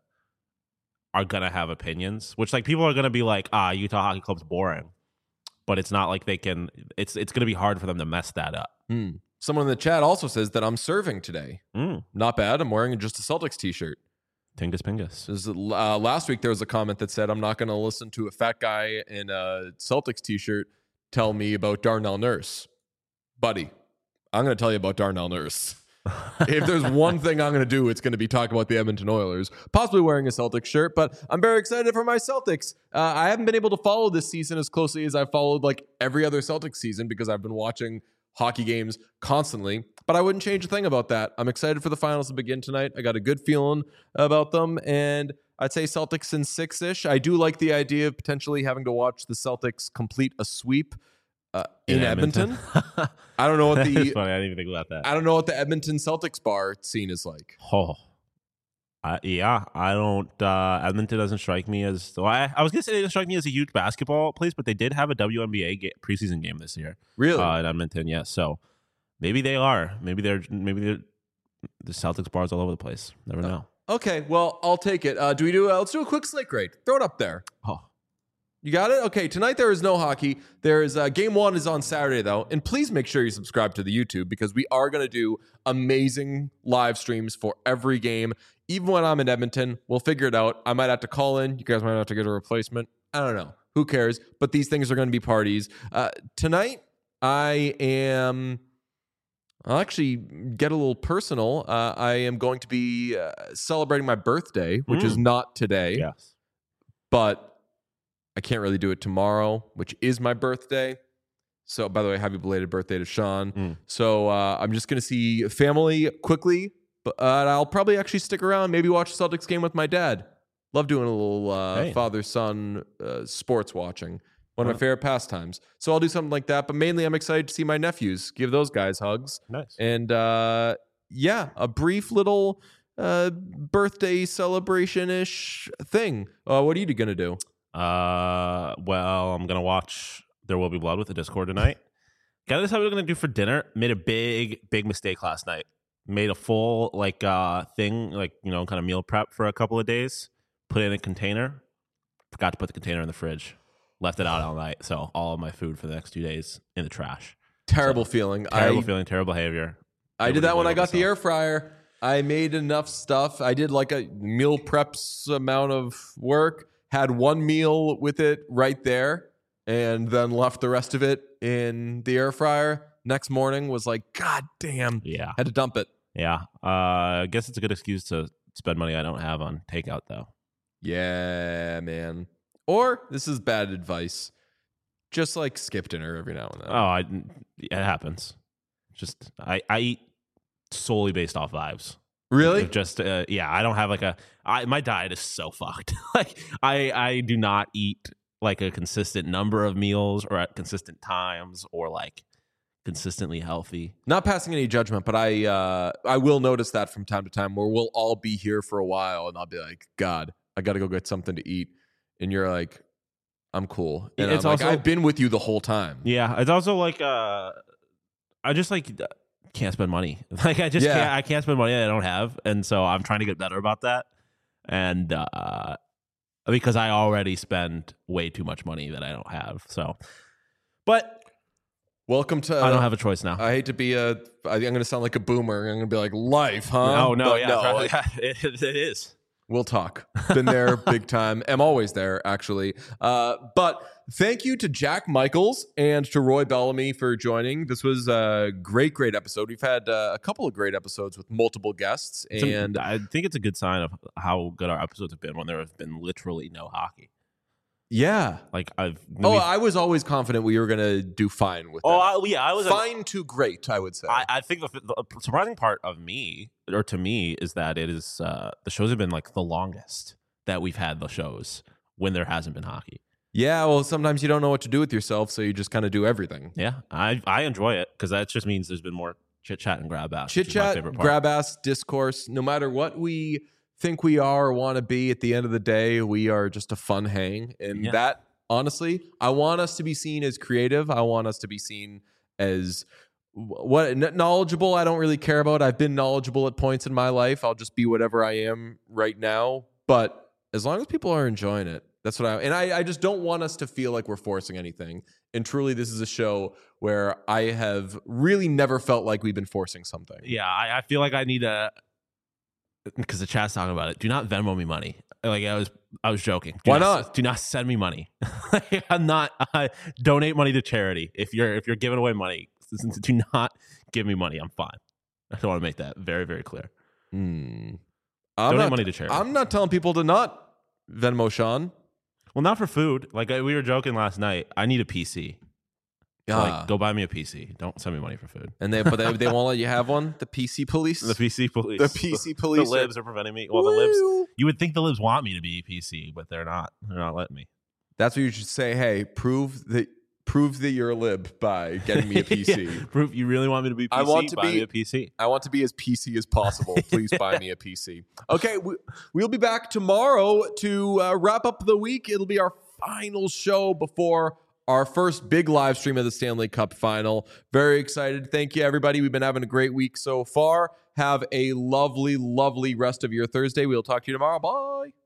are gonna have opinions. Which like people are gonna be like, ah, Utah Hockey Club's boring, but it's not like they can. It's it's gonna be hard for them to mess that up. Hmm. Someone in the chat also says that I'm serving today. Mm. Not bad. I'm wearing just a Celtics t-shirt. Tingus Pingus. This is, uh, last week there was a comment that said I'm not going to listen to a fat guy in a Celtics t-shirt tell me about Darnell Nurse. Buddy, I'm going to tell you about Darnell Nurse. If there's one thing I'm going to do, it's going to be talk about the Edmonton Oilers, possibly wearing a Celtics shirt, but I'm very excited for my Celtics. Uh, I haven't been able to follow this season as closely as I've followed like every other Celtics season because I've been watching hockey games constantly, but I wouldn't change a thing about that. I'm excited for the finals to begin tonight. I got a good feeling about them, and I'd say Celtics in six-ish. I do like the idea of potentially having to watch the Celtics complete a sweep uh, in, Edmonton. I don't know what That's the funny. I didn't even think about that. I don't know what the Edmonton Celtics bar scene is like. Oh, Uh, yeah, I don't. Uh, Edmonton doesn't strike me as. So I, I was gonna say they didn't strike me as a huge basketball place, but they did have a W N B A ga- preseason game this year. Really? Uh, in Edmonton, yes. So maybe they are. Maybe they're. Maybe they're. The Celtics bars all over the place. Never know. Okay, well, I'll take it. Uh, do we do? Uh, let's do a quick slate grade. Throw it up there. Oh, You got it? Okay, tonight there is no hockey. There is uh, game one is on Saturday though, and please make sure you subscribe to the YouTube because we are going to do amazing live streams for every game. Even when I'm in Edmonton, we'll figure it out. I might have to call in. You guys might have to get a replacement. I don't know. Who cares? But these things are going to be parties. Uh, tonight, I am. I'll actually get a little personal. Uh, I am going to be uh, celebrating my birthday, which Mm. is not today, yes. but I can't really do it tomorrow, which is my birthday. So, by the way, happy belated birthday to Sean. Mm. So, uh, I'm just going to see family quickly, but uh, I'll probably actually stick around, maybe watch the Celtics game with my dad. Love doing a little uh, Hey. father-son uh, sports watching. One of Huh. my favorite pastimes. So, I'll do something like that. But mainly, I'm excited to see my nephews, give those guys hugs. Nice. And uh, yeah, a brief little uh, birthday celebration-ish thing. Uh, what are you going to do? Uh, well, I'm gonna watch There Will Be Blood with the Discord tonight. Gotta decide what we're gonna do for dinner. Made a big, big mistake last night. Made a full like uh thing, like you know, kind of meal prep for a couple of days. Put it in a container. Forgot to put the container in the fridge. Left it out all night, so all of my food for the next two days in the trash. Terrible feeling. Terrible I, feeling, terrible behavior. I did Nobody that when I believe got the myself. air fryer. I made enough stuff. I did like a meal preps amount of work, had one meal with it right there, and then left the rest of it in the air fryer. Next morning was like, God damn. Yeah, Had to dump it. yeah. Uh, I guess it's a good excuse to spend money I don't have on takeout, though. Yeah, man. Or this is bad advice. Just like skip dinner every now and then. Oh, I, it happens. Just I, I eat solely based off vibes. Really? Just uh, yeah, I don't have like a. I, my diet is so fucked. Like I, I do not eat like a consistent number of meals or at consistent times or like consistently healthy. Not passing any judgment, but I uh, I will notice that from time to time where we'll all be here for a while and I'll be like, God, I got to go get something to eat. And you're like, I'm cool. And It's I'm like, also- I've been with you the whole time. Yeah, it's also like uh, I just like can't spend money. Like I just Yeah. can't. I can't spend money that I don't have, and so I'm trying to get better about that. And uh, because I already spend way too much money that I don't have. So, but Welcome to. I don't have a choice now. I hate to be a. I, I'm going to sound like a boomer. I'm going to be like, life, huh? oh no, But yeah, no, it, it is. we'll talk. Been there big time. I'm always there, actually. Uh, but thank you to Jack Michaels and to Roy Bellamy for joining. This was a great, great episode. We've had uh, a couple of great episodes with multiple guests. It's a- And I think it's a good sign of how good our episodes have been when there have been literally no hockey. yeah. Like I've. Oh, we've- I was always confident we were going to do fine with oh, that. I, yeah, I was. Fine to great, I would say. I, I think the, the surprising part of me, or to me, is that it is uh, the shows have been like the longest that we've had the shows when there hasn't been hockey. yeah, well, sometimes you don't know what to do with yourself, so you just kind of do everything. Yeah, I I enjoy it because that just means there's been more chit chat and grab ass. Chit which is my chat, favorite part. grab ass, discourse. No matter what we think we are or want to be, at the end of the day, we are just a fun hang. And Yeah. that, honestly, I want us to be seen as creative. I want us to be seen as what kn- knowledgeable. I don't really care about. I've been knowledgeable at points in my life. I'll just be whatever I am right now. But as long as people are enjoying it, that's what I. And I, I just don't want us to feel like we're forcing anything. And truly, this is a show where I have really never felt like we've been forcing something. Yeah, I, I feel like I need a because the chat's talking about it. Do not Venmo me money. Like I was, I was joking. Do Why not? not? Do not send me money. I'm not. Uh, donate money to charity. If you're if you're giving away money, do not give me money. I'm fine. I want to make that very very clear. Hmm. I'm Donate not, money to charity. I'm not telling people to not Venmo Sean. Well, not for food. Like I, we were joking last night. I need a P C. So, Ah. like, go buy me a P C. Don't send me money for food. And they, but they, they won't let you have one. The P C police. The P C police. The P C police The are- libs are preventing me. Well, the libs. Woo. You would think the libs want me to be P C, but they're not. They're not letting me. That's what you should say. Hey, prove that prove that you're a lib by getting me a P C. Yeah, proof you really want me to be P C? I want to Buy be- me a P C. I want to be as P C as possible. Please buy me a P C. Okay, we, we'll be back tomorrow to uh, wrap up the week. It'll be our final show before our first big live stream of the Stanley Cup final. Very excited. Thank you, everybody. We've been having a great week so far. Have a lovely, lovely rest of your Thursday. We'll talk to you tomorrow. Bye.